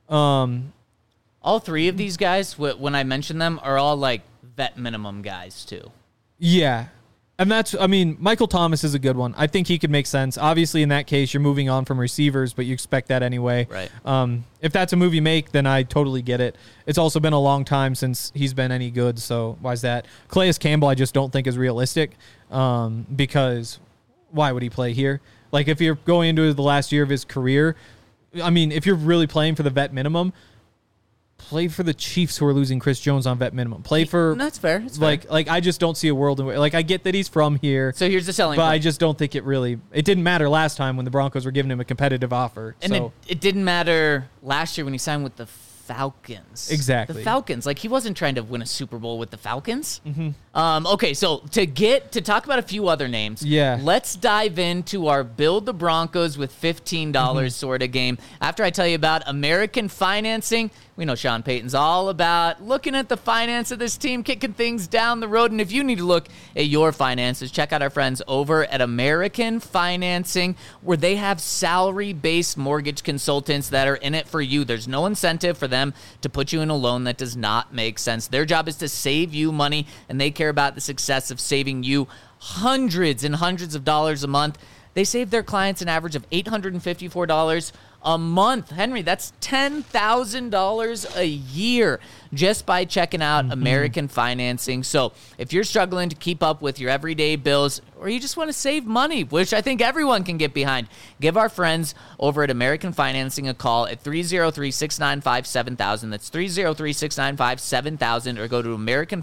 All 3 of these guys, when I mention them, are all vet minimum guys too. Yeah. And Michael Thomas is a good one. I think he could make sense. Obviously, in that case, you're moving on from receivers, but you expect that anyway. Right. If that's a move you make, then I totally get it. It's also been a long time since he's been any good, so why is that? Calais Campbell, I just don't think is realistic, because why would he play here? If you're going into the last year of his career, if you're really playing for the vet minimum, play for the Chiefs, who are losing Chris Jones on vet minimum. Play for... That's fair. I just don't see a world in which... I get that he's from here. So here's the selling point. But I just don't think it really... It didn't matter last time when the Broncos were giving him a competitive offer. And it didn't matter last year when he signed with the Falcons. Exactly. The Falcons. He wasn't trying to win a Super Bowl with the Falcons. Mm-hmm. Okay, so to talk about a few other names, let's dive into our Build the Broncos with $15 sort of game. After I tell you about American financing, we know Sean Payton's all about looking at the finance of this team, kicking things down the road. And if you need to look at your finances, check out our friends over at American Financing, where they have salary-based mortgage consultants that are in it for you. There's no incentive for them to put you in a loan that does not make sense. Their job is to save you money, and they care about the success of saving you hundreds and hundreds of dollars a month. They save their clients an average of $854 a month. Henry, that's $10,000 a year just by checking out American Financing. So if you're struggling to keep up with your everyday bills, or you just want to save money, which I think everyone can get behind, give our friends over at American Financing a call at 303-695-7000. That's 303-695-7000, or go to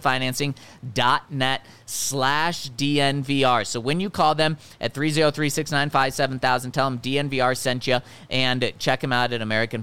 americanfinancing.net/DNVR. So when you call them at 303-695-7000, tell them DNVR sent you, and check them out at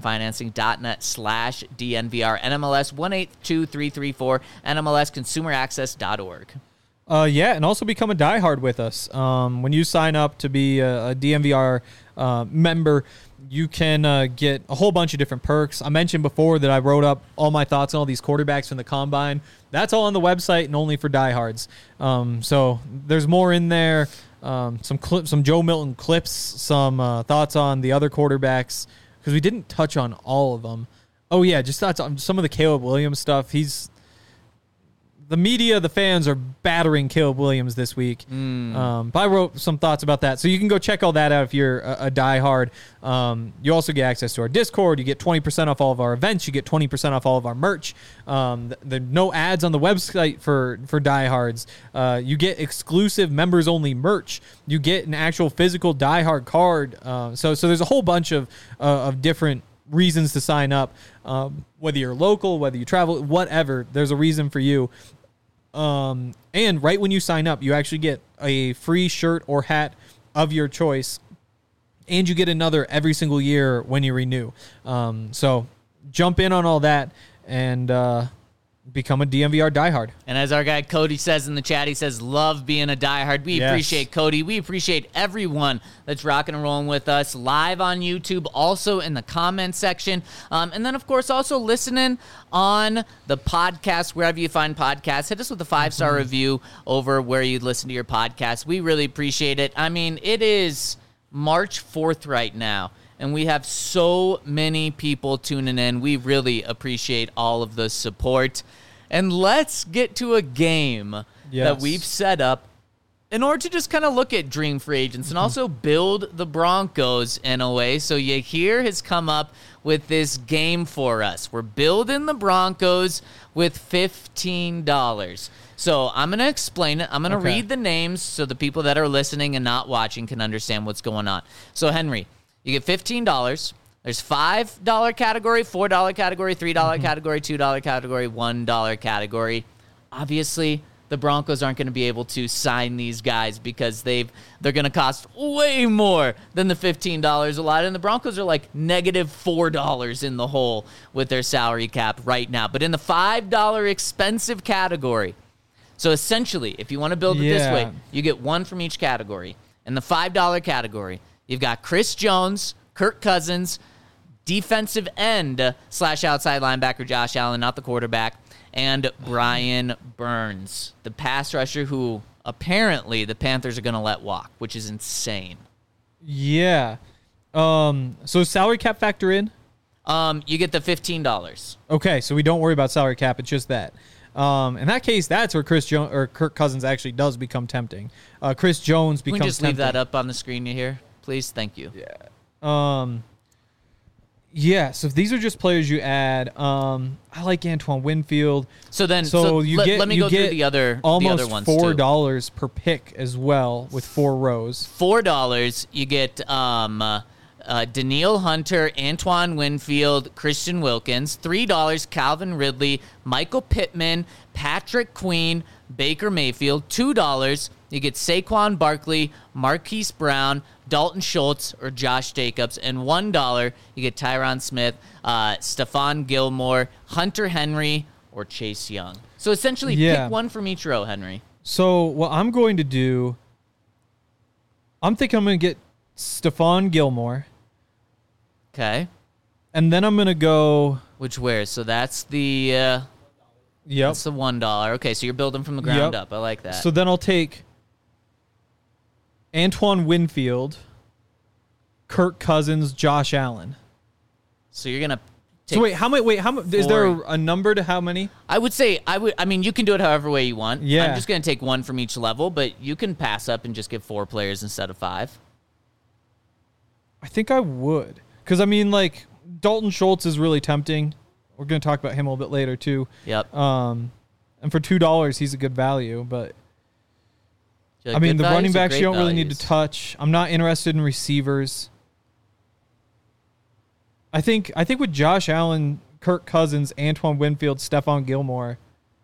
americanfinancing.net/DNVR. NMLS 182334, NMLSconsumeraccess.org. Yeah, and also become a diehard with us. When you sign up to be a DNVR member, you can get a whole bunch of different perks. I mentioned before that I wrote up all my thoughts on all these quarterbacks from the Combine. That's all on the website and only for diehards. So there's more in there. Some Joe Milton clips, some thoughts on the other quarterbacks, because we didn't touch on all of them. Oh, yeah, just thoughts on some of the Caleb Williams stuff. The media, the fans are battering Caleb Williams this week. But I wrote some thoughts about that. So you can go check all that out if you're a diehard. You also get access to our Discord. You get 20% off all of our events. You get 20% off all of our merch. There no ads on the website for diehards. You get exclusive members-only merch. You get an actual physical diehard card. So there's a whole bunch of different reasons to sign up. Whether you're local, whether you travel, whatever, there's a reason for you. And right when you sign up, you actually get a free shirt or hat of your choice, and you get another every single year when you renew. So jump in on all that and become a DNVR diehard. And as our guy Cody says in the chat, he says, love being a diehard. We appreciate Cody. We appreciate everyone that's rocking and rolling with us live on YouTube, also in the comment section. And then, of course, also listening on the podcast, wherever you find podcasts. Hit us with a 5-star review over where you listen to your podcast. We really appreciate it. I mean, it is March 4th right now, and we have so many people tuning in. We really appreciate all of the support. And let's get to a game that we've set up in order to just kind of look at dream free agents and also build the Broncos in a way. So Yahir has come up with this game for us. We're building the Broncos with $15. So I'm going to explain it. I'm going to read the names so the people that are listening and not watching can understand what's going on. So, Henry, you get $15. There's $5 category, $4 category, $3 category, $2 category, $1 category. Obviously, the Broncos aren't going to be able to sign these guys because they're going to cost way more than the $15 a lot. And the Broncos are like negative $4 in the hole with their salary cap right now. But in the $5 expensive category, so essentially, if you want to build it this way, you get one from each category. In the $5 category, you've got Chris Jones, Kirk Cousins, defensive end / outside linebacker Josh Allen, not the quarterback, and Brian Burns, the pass rusher who apparently the Panthers are going to let walk, which is insane. Yeah. So salary cap factor in? You get the $15. Okay, so we don't worry about salary cap. It's just that. In that case, that's where Kirk Cousins actually does become tempting. Chris Jones becomes tempting. Can we just leave that up on the screen here, please? Thank you. Yeah. So if these are just players you add, I like Antoine Winfield. So then, let me go through the other ones too. $4 per pick as well with 4 rows. $4, you get Danielle Hunter, Antoine Winfield, Christian Wilkins. $3, Calvin Ridley, Michael Pittman, Patrick Queen, Baker Mayfield. $2, you get Saquon Barkley, Marquise Brown, Dalton Schultz, or Josh Jacobs. And $1, you get Tyron Smith, Stephon Gilmore, Hunter Henry, or Chase Young. So essentially, pick one from each row, Henry. So what I'm going to do, I'm thinking I'm going to get Stephon Gilmore. Okay. And then I'm going to go... where? So that's the... That's the $1. Okay, so you're building from the ground up. I like that. So then I'll take Antoine Winfield, Kirk Cousins, Josh Allen. So you're going to So wait, how much? Is there a number to how many? I would say I mean, you can do it however way you want. Yeah. I'm just going to take one from each level, but you can pass up and just get 4 players instead of 5. I think I would, because I mean, like Dalton Schultz is really tempting. We're going to talk about him a little bit later too. Yep. And for $2, he's a good value, but Like I mean, the running backs backs you don't really need to touch. I'm not interested in receivers. I think with Josh Allen, Kirk Cousins, Antoine Winfield, Stephon Gilmore,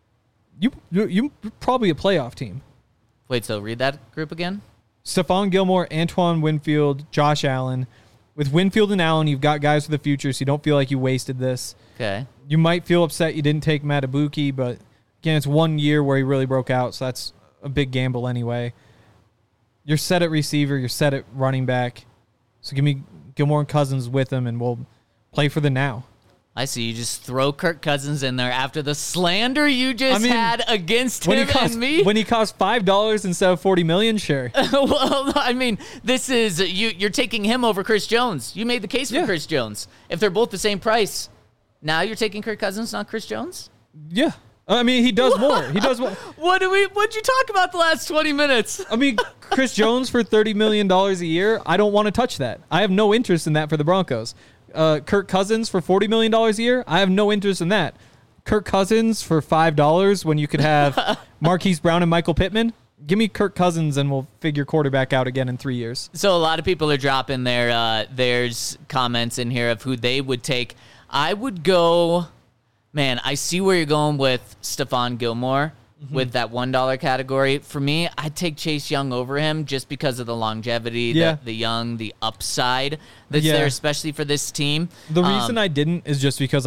you probably a playoff team. Wait, so read that group again? Stephon Gilmore, Antoine Winfield, Josh Allen. With Winfield and Allen, you've got guys for the future, so you don't feel like you wasted this. Okay. You might feel upset you didn't take Matabuki, but again, it's 1 year where he really broke out, so that's a big gamble anyway. You're set at receiver, you're set at running back. So give me Gilmore and Cousins with him, and we'll play for the now. I see. You just throw Kirk Cousins in there after the slander you just had against him and me. When he cost $5 instead of $40 million, sure. Well, I mean, this is you're taking him over Chris Jones. You made the case for Chris Jones. If they're both the same price, now you're taking Kirk Cousins, not Chris Jones? Yeah. I mean, he does more. He does more. What'd you talk about the last 20 minutes? I mean, Chris Jones for $30 million a year, I don't want to touch that. I have no interest in that for the Broncos. Kirk Cousins for $40 million a year, I have no interest in that. Kirk Cousins for $5 when you could have Marquise Brown and Michael Pittman, give me Kirk Cousins and we'll figure quarterback out again in 3 years. So a lot of people are dropping there's comments in here of who they would take. I would go... Man, I see where you're going with Stephon Gilmore with that $1 category. For me, I'd take Chase Young over him just because of the longevity, the upside that's there, especially for this team. The reason I didn't is just because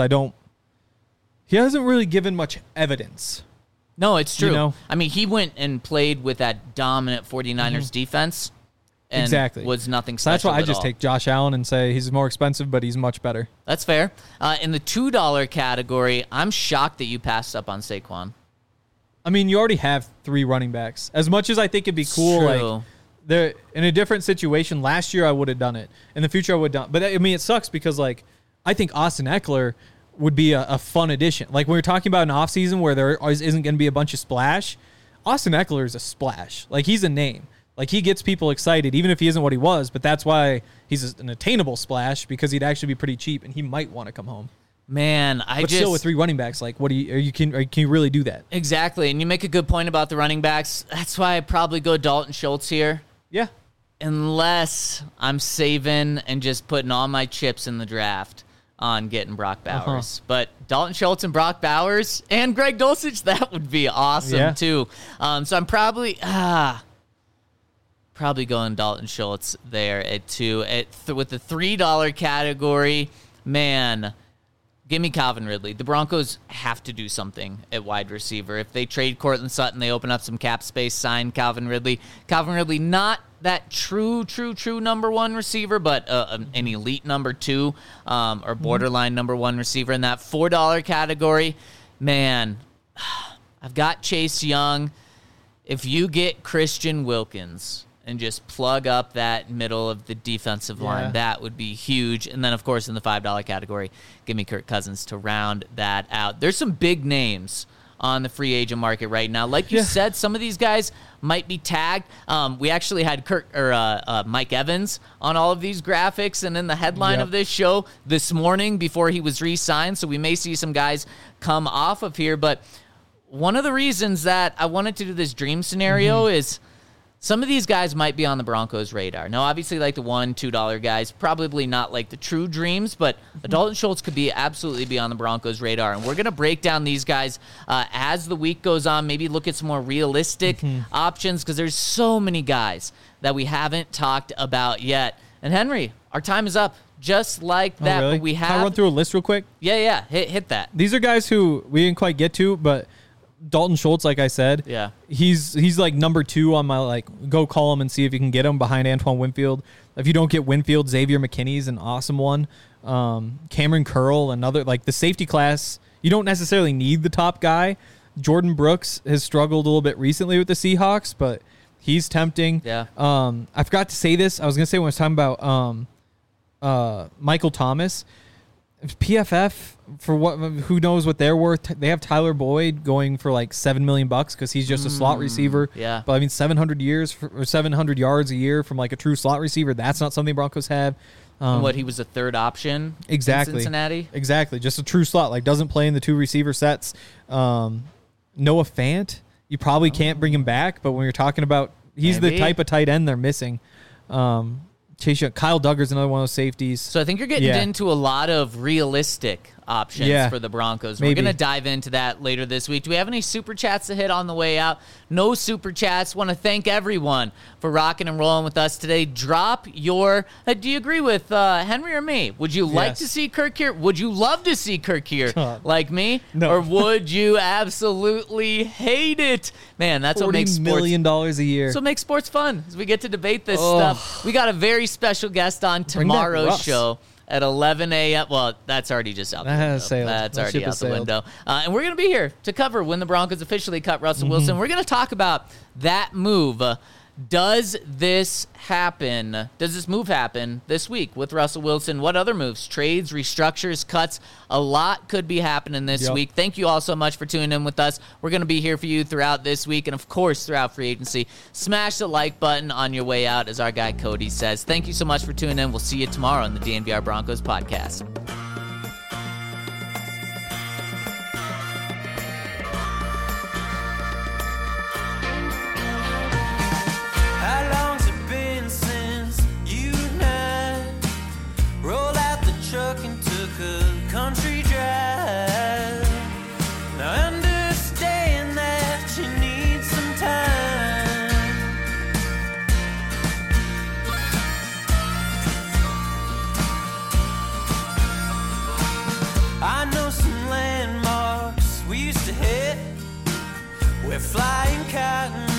he hasn't really given much evidence. No, it's true. You know? I mean, he went and played with that dominant 49ers defense. And was nothing special. That's why I just take Josh Allen and say he's more expensive, but he's much better. That's fair. In the $2 category, I'm shocked that you passed up on Saquon. I mean, you already have 3 running backs. As much as I think it'd be cool, like they're in a different situation. Last year, I would have done it. In the future, I would have done. But I mean, it sucks because like I think Austin Eckler would be a fun addition. Like when we're talking about an offseason where there isn't going to be a bunch of splash, Austin Eckler is a splash. Like he's a name. Like, he gets people excited, even if he isn't what he was, but that's why he's an attainable splash, because he'd actually be pretty cheap, and he might want to come home. Man, but still with 3 running backs, like, can you really do that? Exactly, and you make a good point about the running backs. That's why I'd probably go Dalton Schultz here. Yeah. Unless I'm saving and just putting all my chips in the draft on getting Brock Bowers. But Dalton Schultz and Brock Bowers and Greg Dulcich, that would be awesome, too. So I'm probably going Dalton Schultz there at 2. With the $3 category, man, give me Calvin Ridley. The Broncos have to do something at wide receiver. If they trade Courtland Sutton, they open up some cap space, sign Calvin Ridley. Calvin Ridley, not that true number 1 receiver, but an elite number 2 or borderline number 1 receiver in that $4 category. Man, I've got Chase Young. If you get Christian Wilkins and just plug up that middle of the defensive line, that would be huge. And then, of course, in the $5 category, give me Kirk Cousins to round that out. There's some big names on the free agent market right now. Like you said, some of these guys might be tagged. We actually had Mike Evans on all of these graphics and in the headline of this show this morning before he was re-signed, so we may see some guys come off of here. But one of the reasons that I wanted to do this dream scenario is some of these guys might be on the Broncos' radar. Now, obviously, like the $1, $2 guys, probably not like the true dreams, but Dalton Schultz could absolutely be on the Broncos' radar. And we're going to break down these guys as the week goes on, maybe look at some more realistic options, because there's so many guys that we haven't talked about yet. And Henry, our time is up. Just like that. Really? But we have... Can I run through a list real quick? Yeah. Hit that. These are guys who we didn't quite get to, but Dalton Schultz, like I said, he's like number 2 on my like go call him and see if you can get him behind Antoine Winfield. If you don't get Winfield, Xavier McKinney's an awesome one. Cameron Curl, another, like the safety class. You don't necessarily need the top guy. Jordan Brooks has struggled a little bit recently with the Seahawks, but he's tempting. Yeah. I forgot to say this. I was gonna say when I was talking about Michael Thomas. PFF, for what, who knows what they're worth. They have Tyler Boyd going for like $7 million because he's just a slot receiver. Yeah. But I mean, 700 yards a year from like a true slot receiver. That's not something Broncos have. He was a third option exactly. in Cincinnati? Exactly. Just a true slot. Like, doesn't play in the 2 receiver sets. Noah Fant, you probably can't bring him back, but when you're talking about, he's the type of tight end they're missing. Kyle Duggar's another one of those safeties. So I think you're getting into a lot of realistic options for the Broncos. We're going to dive into that later this week. Do we have any super chats to hit on the way out? No super chats. Want to thank everyone for rocking and rolling with us today. Drop your... do you agree with Henry or me? Would you like to see Kirk here? Would you love to see Kirk here like me? No. Or would you absolutely hate it? Man, that's what makes sports... $40 million a year. So make sports fun as we get to debate this stuff. We got a very special guest on tomorrow's show at 11 a.m. Well, that's already just out the window. That's already out the window. And we're going to be here to cover when the Broncos officially cut Russell Wilson. We're going to talk about that move. Does this happen? Does this move happen this week with Russell Wilson? What other moves? Trades, restructures, cuts? A lot could be happening this week. Thank you all so much for tuning in with us. We're going to be here for you throughout this week and, of course, throughout free agency. Smash the like button on your way out, as our guy Cody says. Thank you so much for tuning in. We'll see you tomorrow on the DNVR Broncos podcast. Country drive. Now understand that you need some time. I know some landmarks we used to hit. We're flying cotton